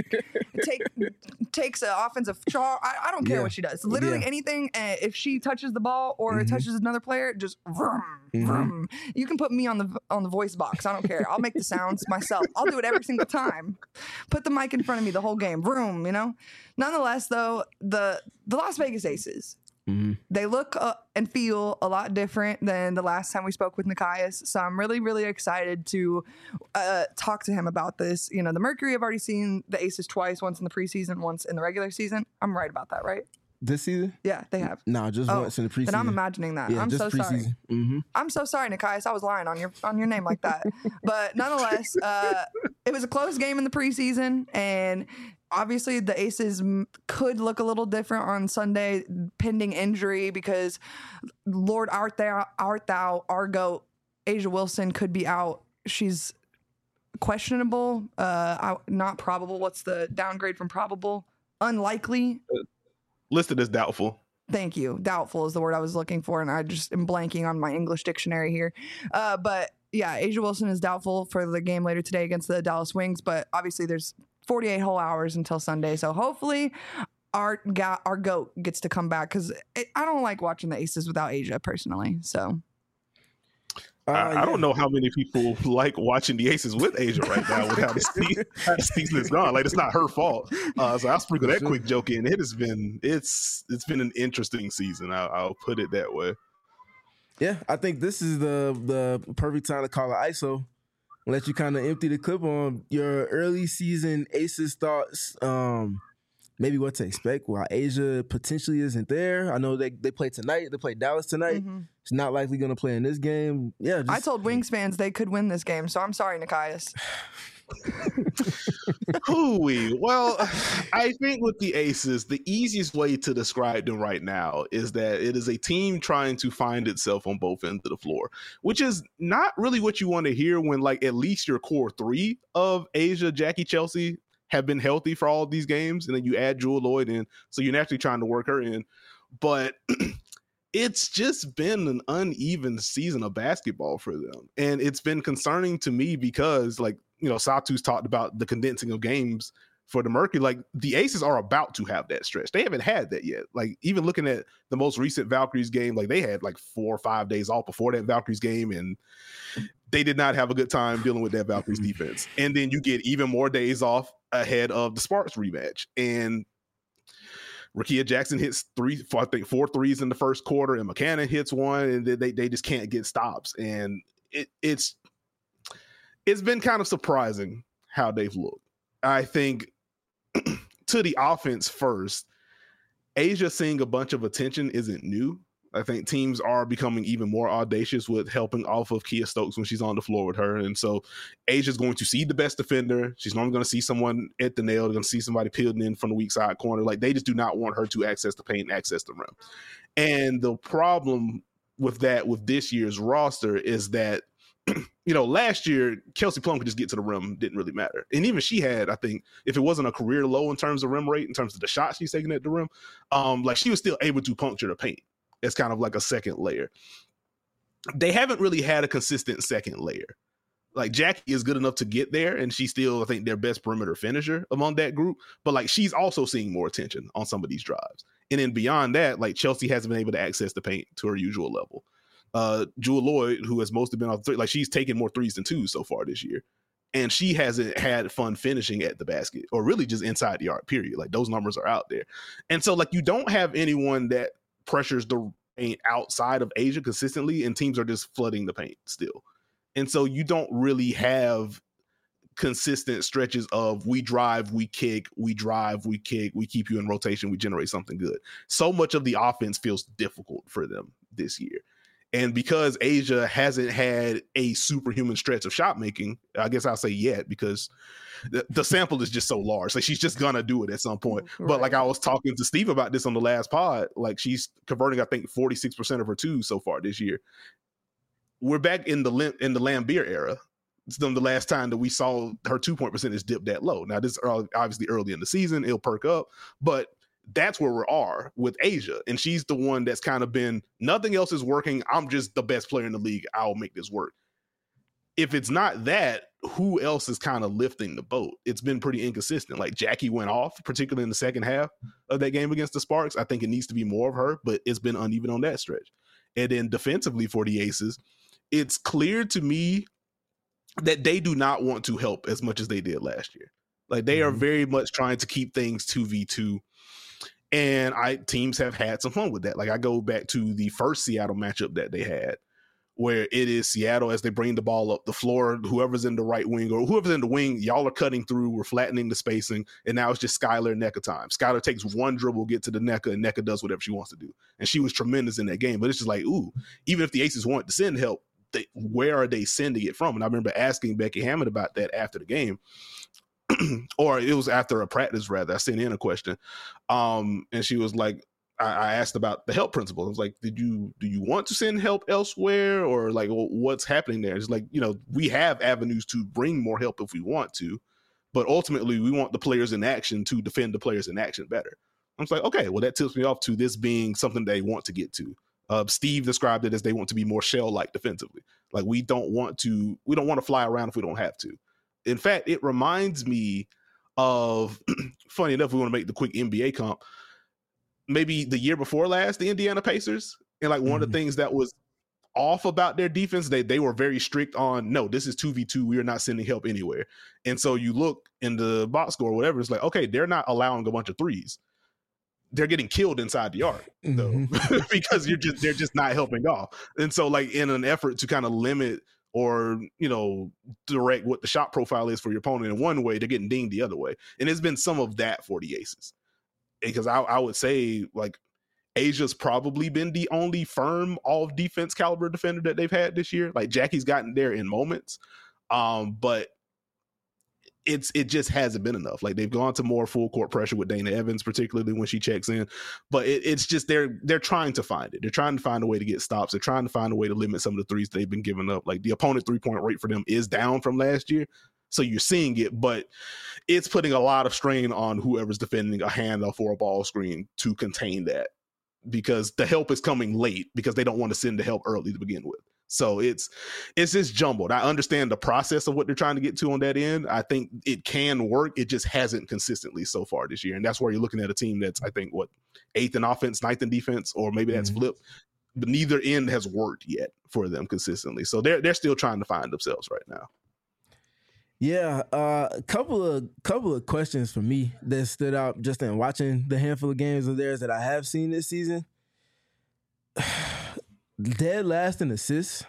takes an offensive charge. I don't care what she does. Literally anything. And if she touches the ball or touches another player, just vroom, vroom. You can put me on the voice box. I don't care. I'll make the sounds myself. I'll do it every single time. Put the mic in front of me the whole game. Vroom, Nonetheless, though, the Las Vegas Aces, they look and feel a lot different than the last time we spoke with Nekias. So I'm really, really excited to talk to him about this. The Mercury have already seen the Aces twice, once in the preseason, once in the regular season. I'm right about that, right? This season? Yeah, they have. No, just once in the preseason. Then I'm imagining that. Yeah, I'm so sorry. I'm so sorry, Nekias. I was lying on your name like that. But nonetheless, it was a close game in the preseason, and obviously the Aces could look a little different on Sunday, pending injury, because Lord art thou, our GOAT, A'ja Wilson, could be out. She's questionable, not probable. What's the downgrade from probable? Unlikely. Listed as doubtful. Thank you. Doubtful is the word I was looking for, and I just am blanking on my English dictionary here. But yeah, A'ja Wilson is doubtful for the game later today against the Dallas Wings, but obviously there's 48 whole hours until Sunday, so hopefully our GOAT gets to come back, because I don't like watching the Aces without A'ja personally. So I don't know how many people like watching the Aces with A'ja right now with how the season is gone. Like, it's not her fault. So I'll sprinkle that quick joke in. It's been an interesting season. I'll put it that way. Yeah, I think this is the perfect time to call it ISO. Let you kind of empty the clip on your early season Aces thoughts. Maybe what to expect while A'ja potentially isn't there. I know they play tonight. They play Dallas tonight. She's not likely going to play in this game. Yeah, I told Wings fans they could win this game, so I'm sorry, Nekias. Hooey. Well, I think with the Aces, the easiest way to describe them right now is that it is a team trying to find itself on both ends of the floor, which is not really what you want to hear when, like, at least your core 3 of A'ja, Jackie, Chelsea have been healthy for all of these games, and then you add Jewell Loyd in, so you're naturally trying to work her in. But it's just been an uneven season of basketball for them, and it's been concerning to me because, like, Satu's talked about the condensing of games for the Mercury. Like, the Aces are about to have that stretch. They haven't had that yet. Like, even looking at the most recent Valkyries game, like, they had like 4 or 5 days off before that Valkyries game, and they did not have a good time dealing with that Valkyries defense. And then you get even more days off ahead of the Sparks rematch. And Rickea Jackson hits 4 threes in the first quarter, and McCannon hits one, and they just can't get stops. And it's been kind of surprising how they've looked. I think to the offense first, A'ja seeing a bunch of attention isn't new. I think teams are becoming even more audacious with helping off of Kia Stokes when she's on the floor with her. And so Asia's going to see the best defender. She's normally going to see someone at the nail. They're going to see somebody peeling in from the weak side corner. Like, they just do not want her to access the paint, access the rim. And the problem with that, with this year's roster, is that last year, Kelsey Plum could just get to the rim, didn't really matter. And even she had, I think, if it wasn't a career low in terms of rim rate, in terms of the shots she's taking at the rim, like she was still able to puncture the paint. It's kind of like a second layer. They haven't really had a consistent second layer. Like Jackie is good enough to get there, and she's still, I think, their best perimeter finisher among that group. But like she's also seeing more attention on some of these drives. And then beyond that, like Chelsea hasn't been able to access the paint to her usual level. Jewel Lloyd, who has mostly been on three, like she's taken more threes than twos so far this year. And she hasn't had fun finishing at the basket or really just inside the arc, period. Like those numbers are out there. And so like you don't have anyone that pressures the paint outside of A'ja consistently, and teams are just flooding the paint still. And so you don't really have consistent stretches of we drive, we kick, we drive, we kick, we keep you in rotation, we generate something good. So much of the offense feels difficult for them this year. And because A'ja hasn't had a superhuman stretch of shot making, I guess I'll say yet, because the sample is just so large. Like she's just gonna do it at some point. Right. But like I was talking to Steve about this on the last pod, like she's converting, I think, 46% of her twos so far this year. We're back in the Lambeer era. It's the last time that we saw her 2-point percentage dip that low. Now, this is obviously early in the season. It'll perk up. But that's where we are with A'ja. And she's the one that's kind of been, nothing else is working. I'm just the best player in the league. I'll make this work. If it's not that, who else is kind of lifting the boat? It's been pretty inconsistent. Like Jackie went off, particularly in the second half of that game against the Sparks. I think it needs to be more of her, but it's been uneven on that stretch. And then defensively for the Aces, it's clear to me that they do not want to help as much as they did last year. Like they are very much trying to keep things 2v2. And teams have had some fun with that. Like I go back to the first Seattle matchup that they had, where it is Seattle as they bring the ball up the floor, whoever's in the right wing or whoever's in the wing, y'all are cutting through, we're flattening the spacing, and now it's just Skylar and Nneka time. Skylar takes one dribble, get to the Nneka, and Nneka does whatever she wants to do. And she was tremendous in that game. But it's just like, ooh, even if the Aces want to send help, where are they sending it from? And I remember asking Becky Hammond about that after the game. Or it was after a practice, rather. I sent in a question. And she was like, I asked about the help principle. I was like, do you want to send help elsewhere? Or like, well, what's happening there? It's like, we have avenues to bring more help if we want to, but ultimately we want the players in action to defend the players in action better. I was like, okay, well, that tips me off to this being something they want to get to. Steve described it as they want to be more shell-like defensively. Like we don't want to fly around if we don't have to. In fact, it reminds me of, funny enough, we want to make the quick NBA comp. Maybe the year before last, the Indiana Pacers. And like one of the things that was off about their defense, they were very strict on, no, this is 2v2. We are not sending help anywhere. And so you look in the box score or whatever, it's like, okay, they're not allowing a bunch of threes. They're getting killed inside the arc though, because they're just not helping off. And so like in an effort to kind of limit or, direct what the shot profile is for your opponent in one way, they're getting dinged the other way. And it's been some of that for the Aces. Because I would say like A'ja's probably been the only firm all defense caliber defender that they've had this year. Like Jackie's gotten there in moments. But it just hasn't been enough. Like they've gone to more full court pressure with Dana Evans, particularly when she checks in. But it's just they're trying to find it. They're trying to find a way to get stops. They're trying to find a way to limit some of the threes they've been giving up. Like the opponent 3-point rate for them is down from last year. So you're seeing it, but it's putting a lot of strain on whoever's defending a handoff or a ball screen to contain that, because the help is coming late because they don't want to send the help early to begin with. So it's just jumbled. I understand the process of what they're trying to get to on that end. I think it can work. It just hasn't consistently so far this year. And that's where you're looking at a team that's, I think, 8th in offense, 9th in defense, or maybe that's flipped. But neither end has worked yet for them consistently. So they're still trying to find themselves right now. Yeah, a couple of questions for me that stood out just in watching the handful of games of theirs that I have seen this season. Dead last in assists.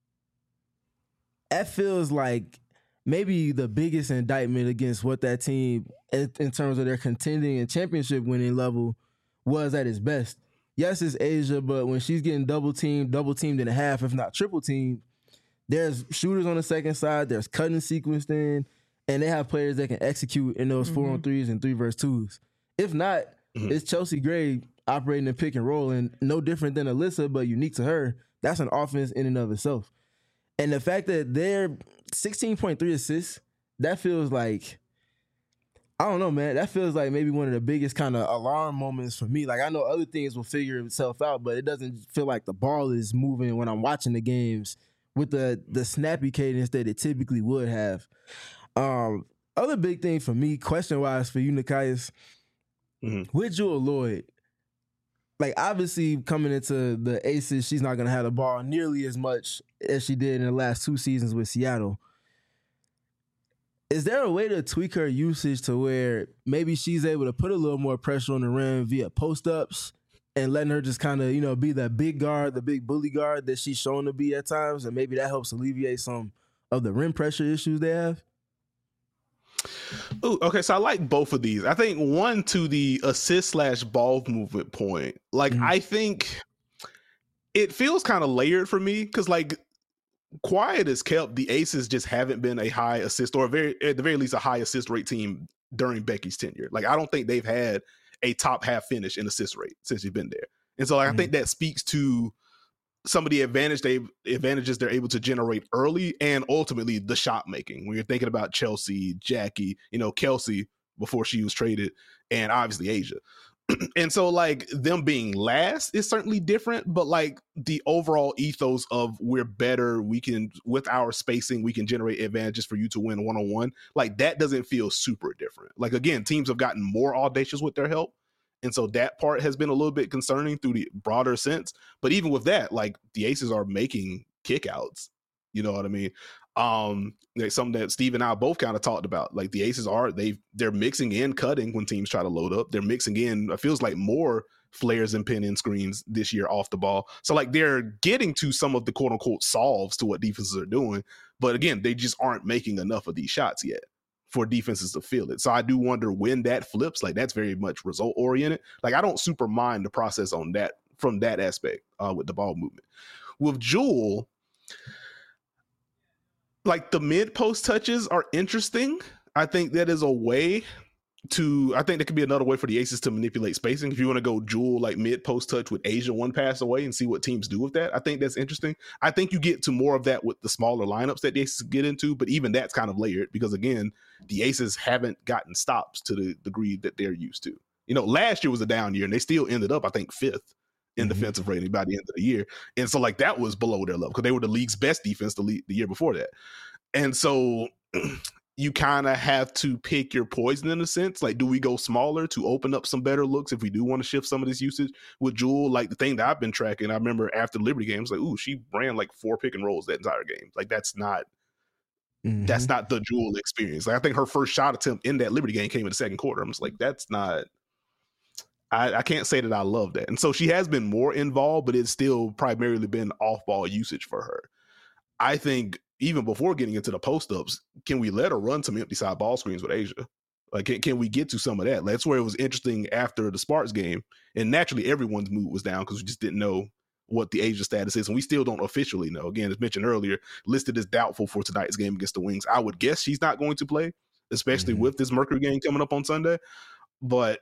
That feels like maybe the biggest indictment against what that team, in terms of their contending and championship winning level, was at its best. Yes, it's A'ja, but when she's getting double teamed and a half, if not triple teamed, there's shooters on the second side, there's cutting sequenced in, and they have players that can execute in those 4-on-3s and 3-versus-2s. If not, it's Chelsea Gray operating in pick and roll, and no different than Alyssa, but unique to her. That's an offense in and of itself. And the fact that they're 16.3 assists, that feels like, I don't know, man. That feels like maybe one of the biggest kind of alarm moments for me. Like, I know other things will figure itself out, but it doesn't feel like the ball is moving when I'm watching the games with the snappy cadence that it typically would have. Other big thing for me, question-wise for you, Nekias, with Jewell Loyd, like, obviously coming into the Aces, she's not going to have the ball nearly as much as she did in the last 2 seasons with Seattle. Is there a way to tweak her usage to where maybe she's able to put a little more pressure on the rim via post-ups and letting her just kind of, you know, be that big guard, the big bully guard that she's shown to be at times, and maybe that helps alleviate some of the rim pressure issues they have? Ooh, okay, so I like both of these. I think one, to the assist/ball movement point, like, I think it feels kind of layered for me because, like, quiet as kept, the Aces just haven't been a high assist, or at the very least a high assist rate team during Becky's tenure. Like, I don't think they've had a top half finish in assist rate since she's been there. And so, like, I think that speaks to some of the advantages they're able to generate early, and ultimately the shot making. When you're thinking about Chelsea, Jackie, you know, Kelsey before she was traded, and obviously Asia. And so, like, them being last is certainly different, but, like, the overall ethos of we're better, we can, with our spacing, we can generate advantages for you to win one-on-one, like, that doesn't feel super different. Like, again, teams have gotten more audacious with their help, and so that part has been a little bit concerning through the broader sense. But even with that, like, the Aces are making kickouts. You know what I mean? Like, something that Steve and I both kind of talked about. Like, the Aces they're mixing in cutting when teams try to load up. They're mixing in, it feels like, more flares and pin in screens this year off the ball. So, like, they're getting to some of the quote unquote solves to what defenses are doing. But again, they just aren't making enough of these shots yet for defenses to feel it. So I do wonder when that flips. Like, that's very much result oriented. Like, I don't super mind the process on that from that aspect with the ball movement. With Jewell, like, the mid post touches are interesting. I think that is a way I think that could be another way for the Aces to manipulate spacing. If you want to go Jewell, like, mid post touch with Asia one pass away and see what teams do with that, I think that's interesting. I think you get to more of that with the smaller lineups that the Aces get into, but even that's kind of layered because, again, the Aces haven't gotten stops to the degree that they're used to. You know, last year was a down year and they still ended up, I think, 5th in defensive rating by the end of the year. And so, like, that was below their level because they were the league's best defense the year before that. And so you kind of have to pick your poison in a sense. Like, do we go smaller to open up some better looks if we do want to shift some of this usage with Jewell? Like, the thing that I've been tracking, I remember after the Liberty games, like, ooh, she ran like 4 pick and rolls that entire game. Like, that's not the Jewell experience. Like, I think her first shot attempt in that Liberty game came in the second quarter. I'm just like, that's not, I can't say that I love that. And so she has been more involved, but it's still primarily been off ball usage for her. I think even before getting into the post-ups, can we let her run some empty side ball screens with Asia? Like, can we get to some of that? That's where it was interesting after the Sparks game. And naturally, everyone's mood was down because we just didn't know what the Asia status is. And we still don't officially know. Again, as mentioned earlier, listed as doubtful for tonight's game against the Wings. I would guess she's not going to play, especially with this Mercury game coming up on Sunday. But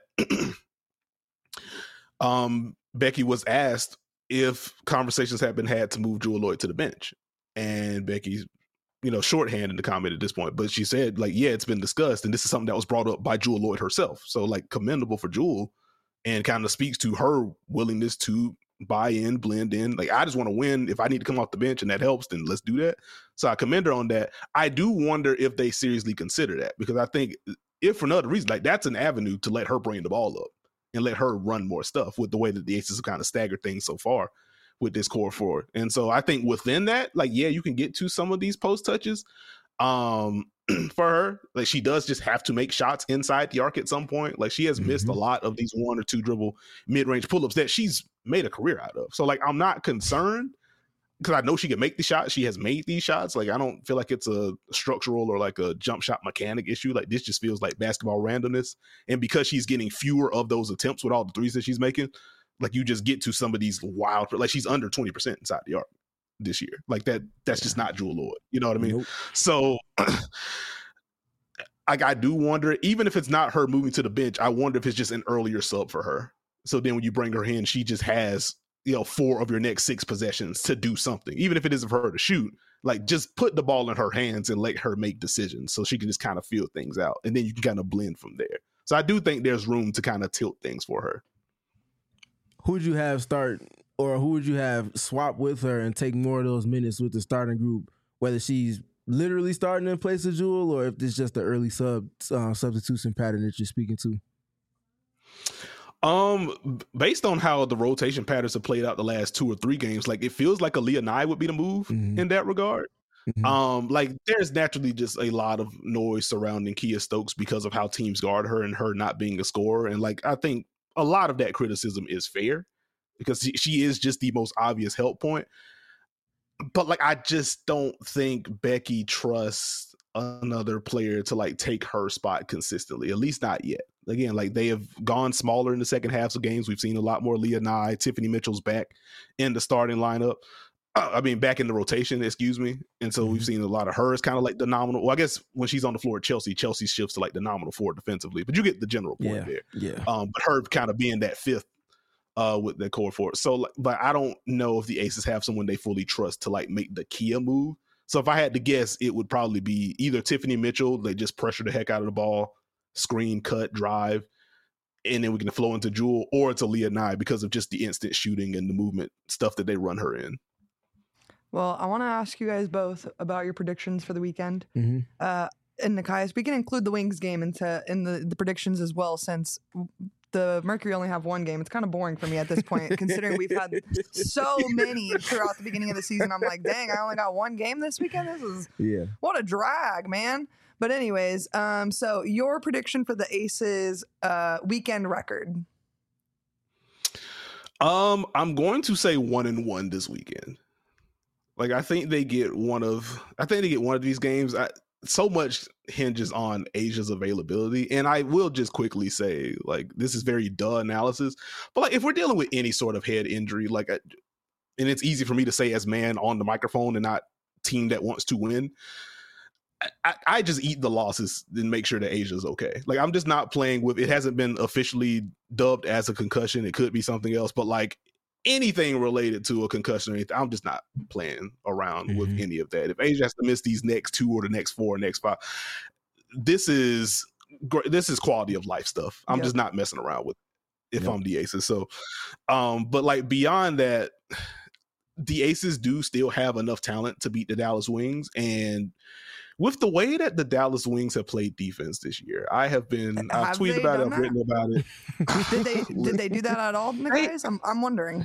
Becky was asked if conversations have been had to move Jewell Loyd to the bench. And Becky's, you know, shorthand in the comment at this point, but she said, like, yeah, it's been discussed, and this is something that was brought up by Jewell Loyd herself. So, like, commendable for Jewell, and kind of speaks to her willingness to buy in, blend in. Like, I just want to win. If I need to come off the bench and that helps, then let's do that. So I commend her on that. I do wonder if they seriously consider that, because I think if for another reason, like, that's an avenue to let her bring the ball up and let her run more stuff with the way that the Aces have kind of staggered things so far with this core forward. And so I think within that, like, yeah, you can get to some of these post touches for her. Like, she does just have to make shots inside the arc at some point. Like, she has missed a lot of these 1 or 2 dribble mid-range pull-ups that she's made a career out of. So, like, I'm not concerned because I know she can make the shot. She has made these shots. Like, I don't feel like it's a structural or like a jump shot mechanic issue. Like, this just feels like basketball randomness. And because she's getting fewer of those attempts with all the threes that she's making, like, you just get to some of these wild, like, she's under 20% inside the arc this year. Like, that's just not Jewell Loyd. You know what I mean? Nope. So I do wonder, even if it's not her moving to the bench, I wonder if it's just an earlier sub for her. So then when you bring her in, she just has, you know, 4 of your next 6 possessions to do something. Even if it isn't for her to shoot, Like, just put the ball in her hands and let her make decisions so she can just kind of feel things out. And then you can kind of blend from there. So I do think there's room to kind of tilt things for her. Who would you have start, or who would you have swap with her and take more of those minutes with the starting group, whether she's literally starting in place of Jewel or if it's just the early substitution pattern that you're speaking to? Based on how the rotation patterns have played out the last 2 or 3 games, like it feels like Aaliyah Nye would be the move in that regard. Like there's naturally just a lot of noise surrounding Kia Stokes because of how teams guard her and her not being a scorer. And like, I think a lot of that criticism is fair because she is just the most obvious help point. But like, I just don't think Becky trusts another player to like take her spot consistently, at least not yet. Again, like they have gone smaller in the second halves of games. We've seen a lot more Leah Nye. Tiffany Mitchell's back in the starting lineup. Back in the rotation, excuse me. And so we've seen a lot of hers kind of like the nominal. Well, I guess when she's on the floor at Chelsea shifts to like the nominal forward defensively. But you get the general point there. Yeah. But her kind of being that fifth with the core forward. So, but I don't know if the Aces have someone they fully trust to like make the Kia move. So if I had to guess, it would probably be either Tiffany Mitchell. They just pressure the heck out of the ball, screen, cut, drive, and then we can flow into Jewel, or it's Aaliyah Nye because of just the instant shooting and the movement stuff that they run her in. Well, I want to ask you guys both about your predictions for the weekend. Mm-hmm. And Nekias, we can include the Wings game in the predictions as well, since the Mercury only have one game. It's kind of boring for me at this point, considering we've had so many throughout the beginning of the season. I'm like, dang, I only got one game this weekend. This is what a drag, man. But anyways, so your prediction for the Aces weekend record? I'm going to say 1-1 this weekend. Like, I think they get one of these games. So much hinges on Asia's availability. And I will just quickly say, like, this is very duh analysis, but like, if we're dealing with any sort of head injury, like, and it's easy for me to say as man on the microphone and not team that wants to win, I just eat the losses and make sure that Asia's okay. Like, I'm just not playing with, it hasn't been officially dubbed as a concussion. It could be something else, but like, anything related to a concussion or anything, I'm just not playing around with any of that. If Asia has to miss these next 2 or the next 4 or next 5, this is quality of life stuff. I'm just not messing around with it if I'm the Aces. So, but like beyond that, the Aces do still have enough talent to beat the Dallas Wings. And with the way that the Dallas Wings have played defense this year, I've tweeted about it, I've written about it. Did they do that at all, guys? I'm wondering.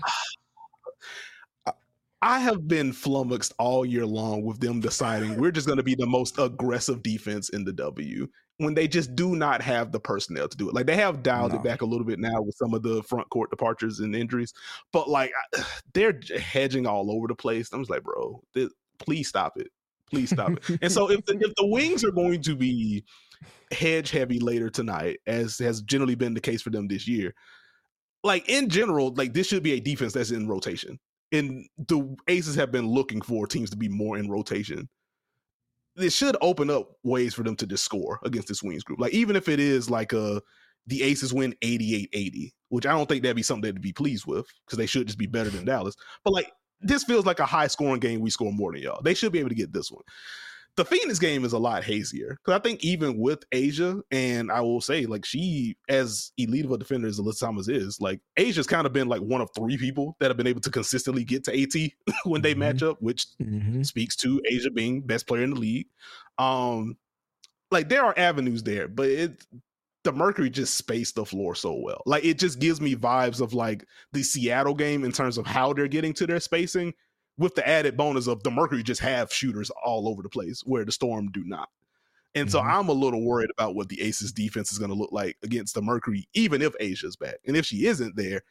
I have been flummoxed all year long with them deciding we're just going to be the most aggressive defense in the W when they just do not have the personnel to do it. Like, they have dialed it back a little bit now with some of the front court departures and injuries, but like they're hedging all over the place. I'm just like, bro, please stop it. Please stop it. And so if the Wings are going to be hedge heavy later tonight, as has generally been the case for them this year, like in general, like this should be a defense that's in rotation. And the Aces have been looking for teams to be more in rotation. This should open up ways for them to just score against this Wings group. Like, even if it is like the Aces win 88-80, which I don't think that'd be something they'd be pleased with because they should just be better than Dallas. But like, this feels like a high scoring game. We score more than y'all. They should be able to get this one. The Phoenix game is a lot hazier because I think even with Asia, and I will say, like, she, as elite of a defender as Alyssa Thomas is, like, Asia's kind of been like one of 3 people that have been able to consistently get to AT when they match up, which speaks to Asia being best player in the league. Like, there are avenues there, but the Mercury just spaced the floor so well. Like, it just gives me vibes of like the Seattle game in terms of how they're getting to their spacing, with the added bonus of the Mercury just have shooters all over the place where the Storm do not. And so I'm a little worried about what the Aces defense is going to look like against the Mercury, even if Asia's back. And if she isn't there,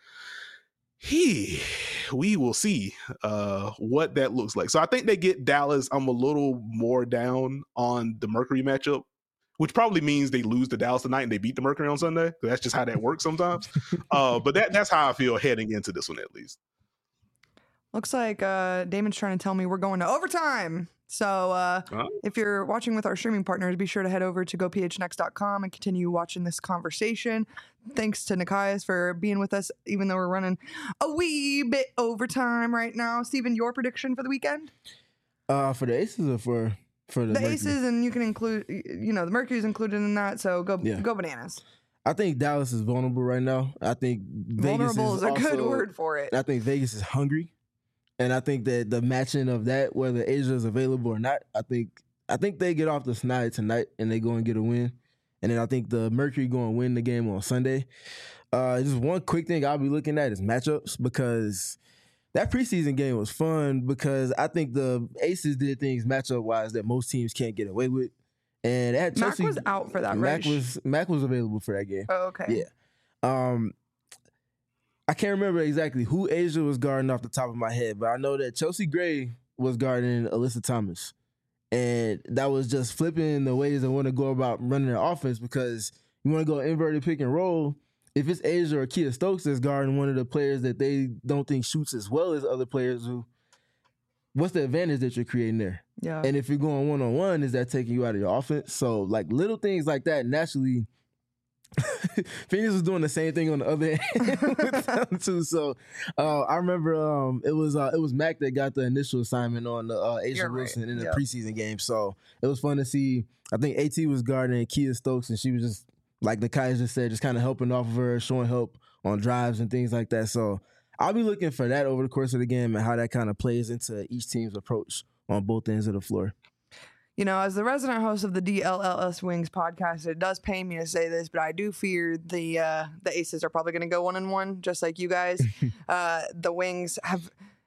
we will see what that looks like. So I think they get Dallas. I'm a little more down on the Mercury matchup, which probably means they lose to Dallas tonight and they beat the Mercury on Sunday. That's just how that works sometimes. But that's how I feel heading into this one, at least. Looks like Damon's trying to tell me we're going to overtime. So if you're watching with our streaming partners, be sure to head over to gophnx.com and continue watching this conversation. Thanks to Nekias for being with us, even though we're running a wee bit overtime right now. Steven, your prediction for the weekend? For the Aces or for the Mercury? Aces, and you can include, the Mercury's included in that. So go bananas. I think Dallas is vulnerable right now. I think Vegas Vulnerable is a good also, word for it. I think Vegas is hungry, and I think that the matching of that, whether Asia is available or not, I think they get off the snide tonight and they go and get a win. And then I think the Mercury go and win the game on Sunday. Just one quick thing I'll be looking at is matchups, because that preseason game was fun, because I think the Aces did things matchup-wise that most teams can't get away with. And that Mac was out for that, right? Mac was available for that game. Oh, okay. Yeah. I can't remember exactly who Asia was guarding off the top of my head, but I know that Chelsea Gray was guarding Alyssa Thomas. And that was just flipping the ways they want to go about running their offense, because you want to go inverted pick and roll. If it's Asia or Kia Stokes that's guarding one of the players that they don't think shoots as well as other players who, what's the advantage that you're creating there? Yeah. And if you're going one-on-one, is that taking you out of your offense? So, like, little things like that, naturally, Phoenix was doing the same thing on the other end with them too. So I remember it was Mac that got the initial assignment on the Asia Wilson in the preseason game. So it was fun to see. I think AT was guarding Kia Stokes, and she was just, like Nakai just said, just kind of helping off of her, showing help on drives and things like that. So I'll be looking for that over the course of the game and how that kind of plays into each team's approach on both ends of the floor. As the resident host of the DLLS Wings podcast, it does pain me to say this, but I do fear the Aces are probably going to go 1-1, just like you guys. The Wings have.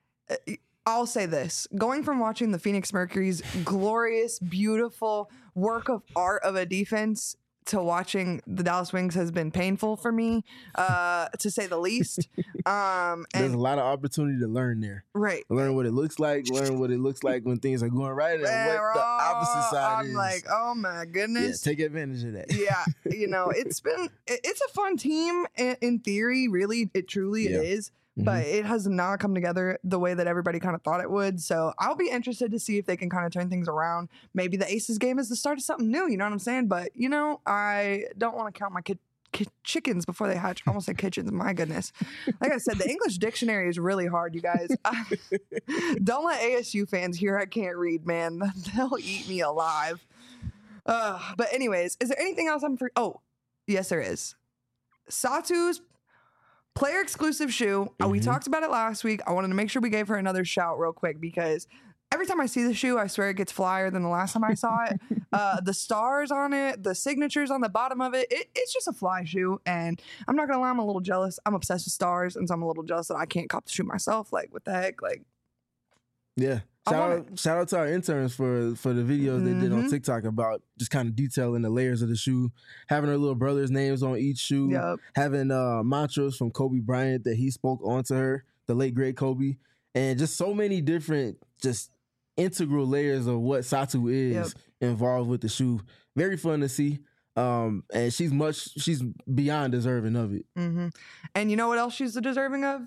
I'll say this: going from watching the Phoenix Mercury's glorious, beautiful work of art of a defense to watching the Dallas Wings has been painful for me, to say the least. There's a lot of opportunity to learn there. Right. Learn what it looks like, when things are going right, and what the opposite side is. I'm like, oh my goodness. Yeah, take advantage of that. Yeah. It's a fun team in theory, really. It truly is. But it has not come together the way that everybody kind of thought it would. So I'll be interested to see if they can kind of turn things around. Maybe the Aces game is the start of something new. You know what I'm saying? But, I don't want to count my chickens before they hatch. I almost said kitchens. My goodness. Like I said, the English dictionary is really hard, you guys. Don't let ASU fans hear I can't read, man. They'll eat me alive. But anyways, is there anything else Oh, yes, there is. Satu's player exclusive shoe. We talked about it last week. I wanted to make sure we gave her another shout real quick, because every time I see the shoe, I swear it gets flyer than the last time I saw it. The stars on it, the signatures on the bottom of it, it's just a fly shoe. And I'm not going to lie, I'm a little jealous. I'm obsessed with stars, and so I'm a little jealous that I can't cop the shoe myself. Like, what the heck? Like, yeah. Shout out to our interns for the videos they did on TikTok about just kind of detailing the layers of the shoe, having her little brother's names on each shoe, having mantras from Kobe Bryant that he spoke onto her, the late great Kobe, and just so many different just integral layers of what Satu is involved with the shoe. Very fun to see. And she's beyond deserving of it. And you know what else she's deserving of?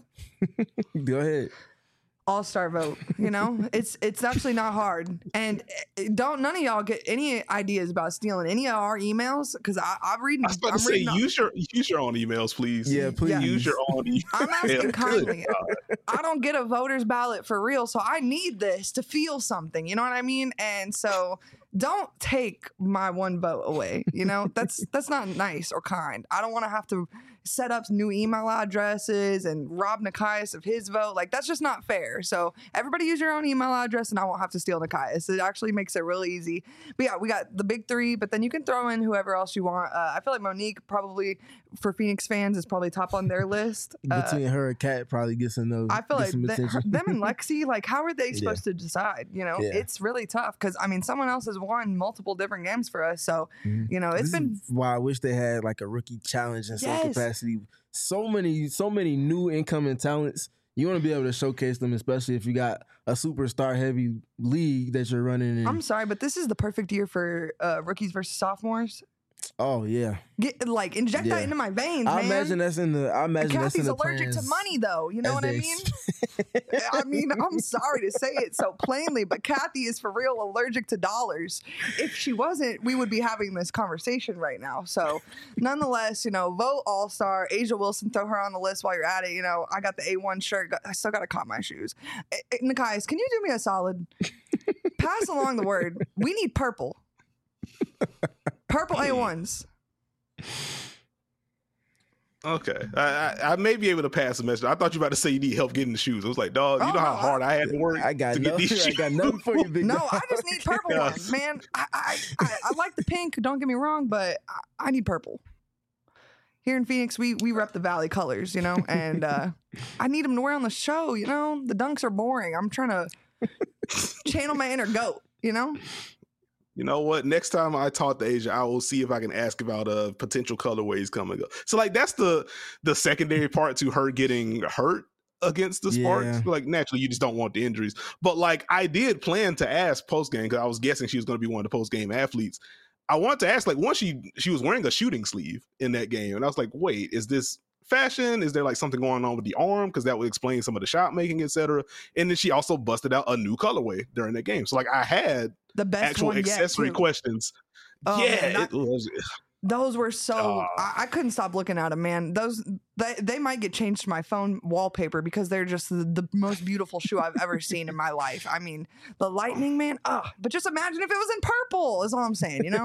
Go ahead. All-star vote. It's actually not hard. And none of y'all get any ideas about stealing any of our emails, because I'm reading. I was about to say, use your own emails, please. Yeah, please. Use your own emails. I'm asking kindly. I don't get a voter's ballot for real, so I need this to feel something. You know what I mean? And so don't take my one vote away. That's not nice or kind. I don't want to have to set up new email addresses and rob Nikias of his vote. Like, that's just not fair. So everybody use your own email address, and I won't have to steal Nikias. It actually makes it really easy. But yeah, we got the big three, but then you can throw in whoever else you want. I feel like Monique, probably for Phoenix fans, is probably top on their list. Between her and Kat, probably gets some those. I feel like them and Lexi, like, how are they supposed to decide? It's really tough, because someone else has won multiple different games for us. So it's been why I wish they had like a rookie challenge in some capacity. So many new incoming talents. You want to be able to showcase them, especially if you got a superstar heavy league that you're running in. I'm sorry, but this is the perfect year for rookies versus sophomores. Oh yeah, inject that into my veins, man. I imagine that's in the. Kathy's allergic to money, though. You know what I mean? I'm sorry to say it so plainly, but Kathy is for real allergic to dollars. If she wasn't, we would be having this conversation right now. So, nonetheless, vote All-Star. Asia Wilson, throw her on the list while you're at it. I got the A1 shirt. I still got to cop my shoes. Nikias, can you do me a solid? pass along the word. We need purple. Purple A1s. Okay, I may be able to pass the message. I thought you were about to say you need help getting the shoes. I was like, dog, you know how hard I had to work I got to get these shoes. I got nothing for you, big No, dog. I just need purple ones, man. I like the pink. Don't get me wrong, but I need purple. Here in Phoenix, we rep the Valley colors, you know, and I need them to wear on the show. You know, the dunks are boring. I'm trying to channel my inner goat. You know. You know what? Next time I talk to Asia, I will see if I can ask about potential colorways coming up. So like that's the secondary part to her getting hurt against the Sparks. Yeah. Like naturally, you just don't want the injuries. But like I did plan to ask post game because I was guessing she was going to be one of the post game athletes. I wanted to ask like once she was wearing a shooting sleeve in that game, and I was like, wait, is this fashion? Is there like something going on with the arm? Because that would explain some of the shot making, etc. And then she also busted out a new colorway during that game. So like I had The best actual one yet, accessory too. questions. Oh, Yeah, man, it was. Those were so I couldn't stop looking at them, man. Those they might get changed to my phone wallpaper because they're just the most beautiful shoe I've ever seen in my life. I mean, the lightning, man. But just imagine if it was in purple. Is all I'm saying. You know.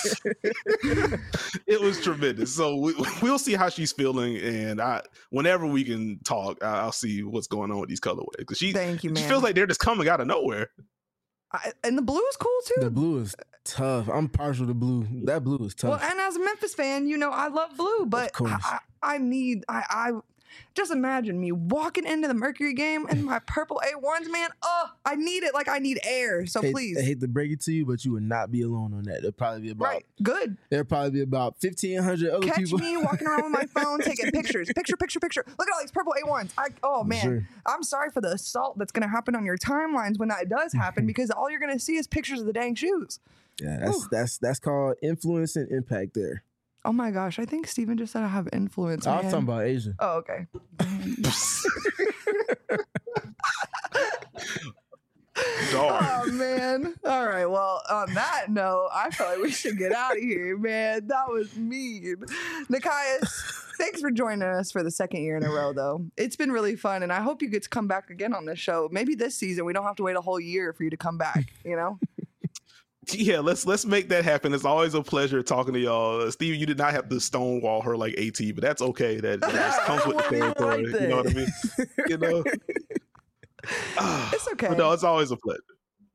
It was tremendous. So we'll see how she's feeling, and whenever we can talk, I'll see what's going on with these colorways because Thank you, she man. feels like they're just coming out of nowhere. And the blue is cool too. The blue is tough. I'm partial to blue. That blue is tough. Well, and as a Memphis fan, you know I love blue, but course. I just imagine me walking into the Mercury game in my purple A1s, man. I need it like I need air. So please, I hate to break it to you, but you would not be alone on that. There'll probably be about good. There'll probably be about 1,500 other Catch people. me walking around with my phone taking pictures. Picture. Look at all these purple A1s. Man, Sure. I'm sorry for the assault that's going to happen on your timelines when that does happen because all you're going to see is pictures of the dang shoes. Yeah, that's called influence and impact there. Oh my gosh, I think Steven just said I have influence. I was man. talking about Asia. Oh, okay. Oh man. All right. Well, on that note, I feel like we should get out of here, man. That was mean. Nikias, thanks for joining us for the second year in a row, though. It's been really fun, and I hope you get to come back again on this show. Maybe this season we don't have to wait a whole year for you to come back, you know? Yeah, let's make that happen. It's always a pleasure talking to y'all. Steve, you did not have to stonewall her like AT, but that's okay. That just comes with the territory. You know what I mean? You know? It's okay. But no, it's always a pleasure.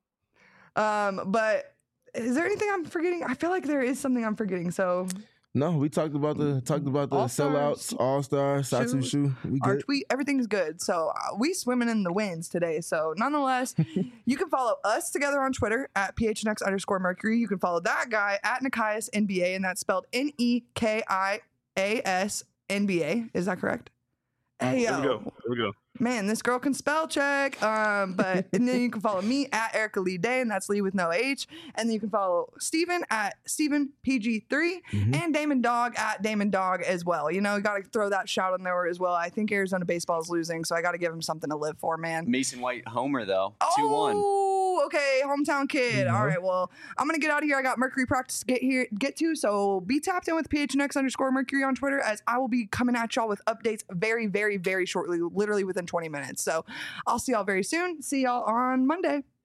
But is there anything I'm forgetting? I feel like there is something I'm forgetting. So No, we talked about the All-Stars, sellouts, All-Star, Satu Shoe. We our good. tweet, everything's good. So we swimming in the wins today. So nonetheless, you can follow us together on Twitter at PHNX_Mercury. You can follow that guy at Nikias NBA, and that's spelled NEKIAS NBA. Is that correct? Hey, There we go. Man, this girl can spell check. But and then you can follow me at Erica Lee Day, and that's Lee with no H. And then you can follow Steven at StevenPG3 and Damon Dog at Damon Dog as well. You know, you got to throw that shout in there as well. I think Arizona baseball is losing, so I got to give him something to live for, man. Mason White homer though, 2-1. Oh, okay, hometown kid. All right, well, I'm gonna get out of here. I got Mercury practice to get to, so be tapped in with PHNX_Mercury on Twitter, as I will be coming at y'all with updates very, very, very shortly, literally within 20 minutes. So I'll see y'all very soon. See y'all on Monday.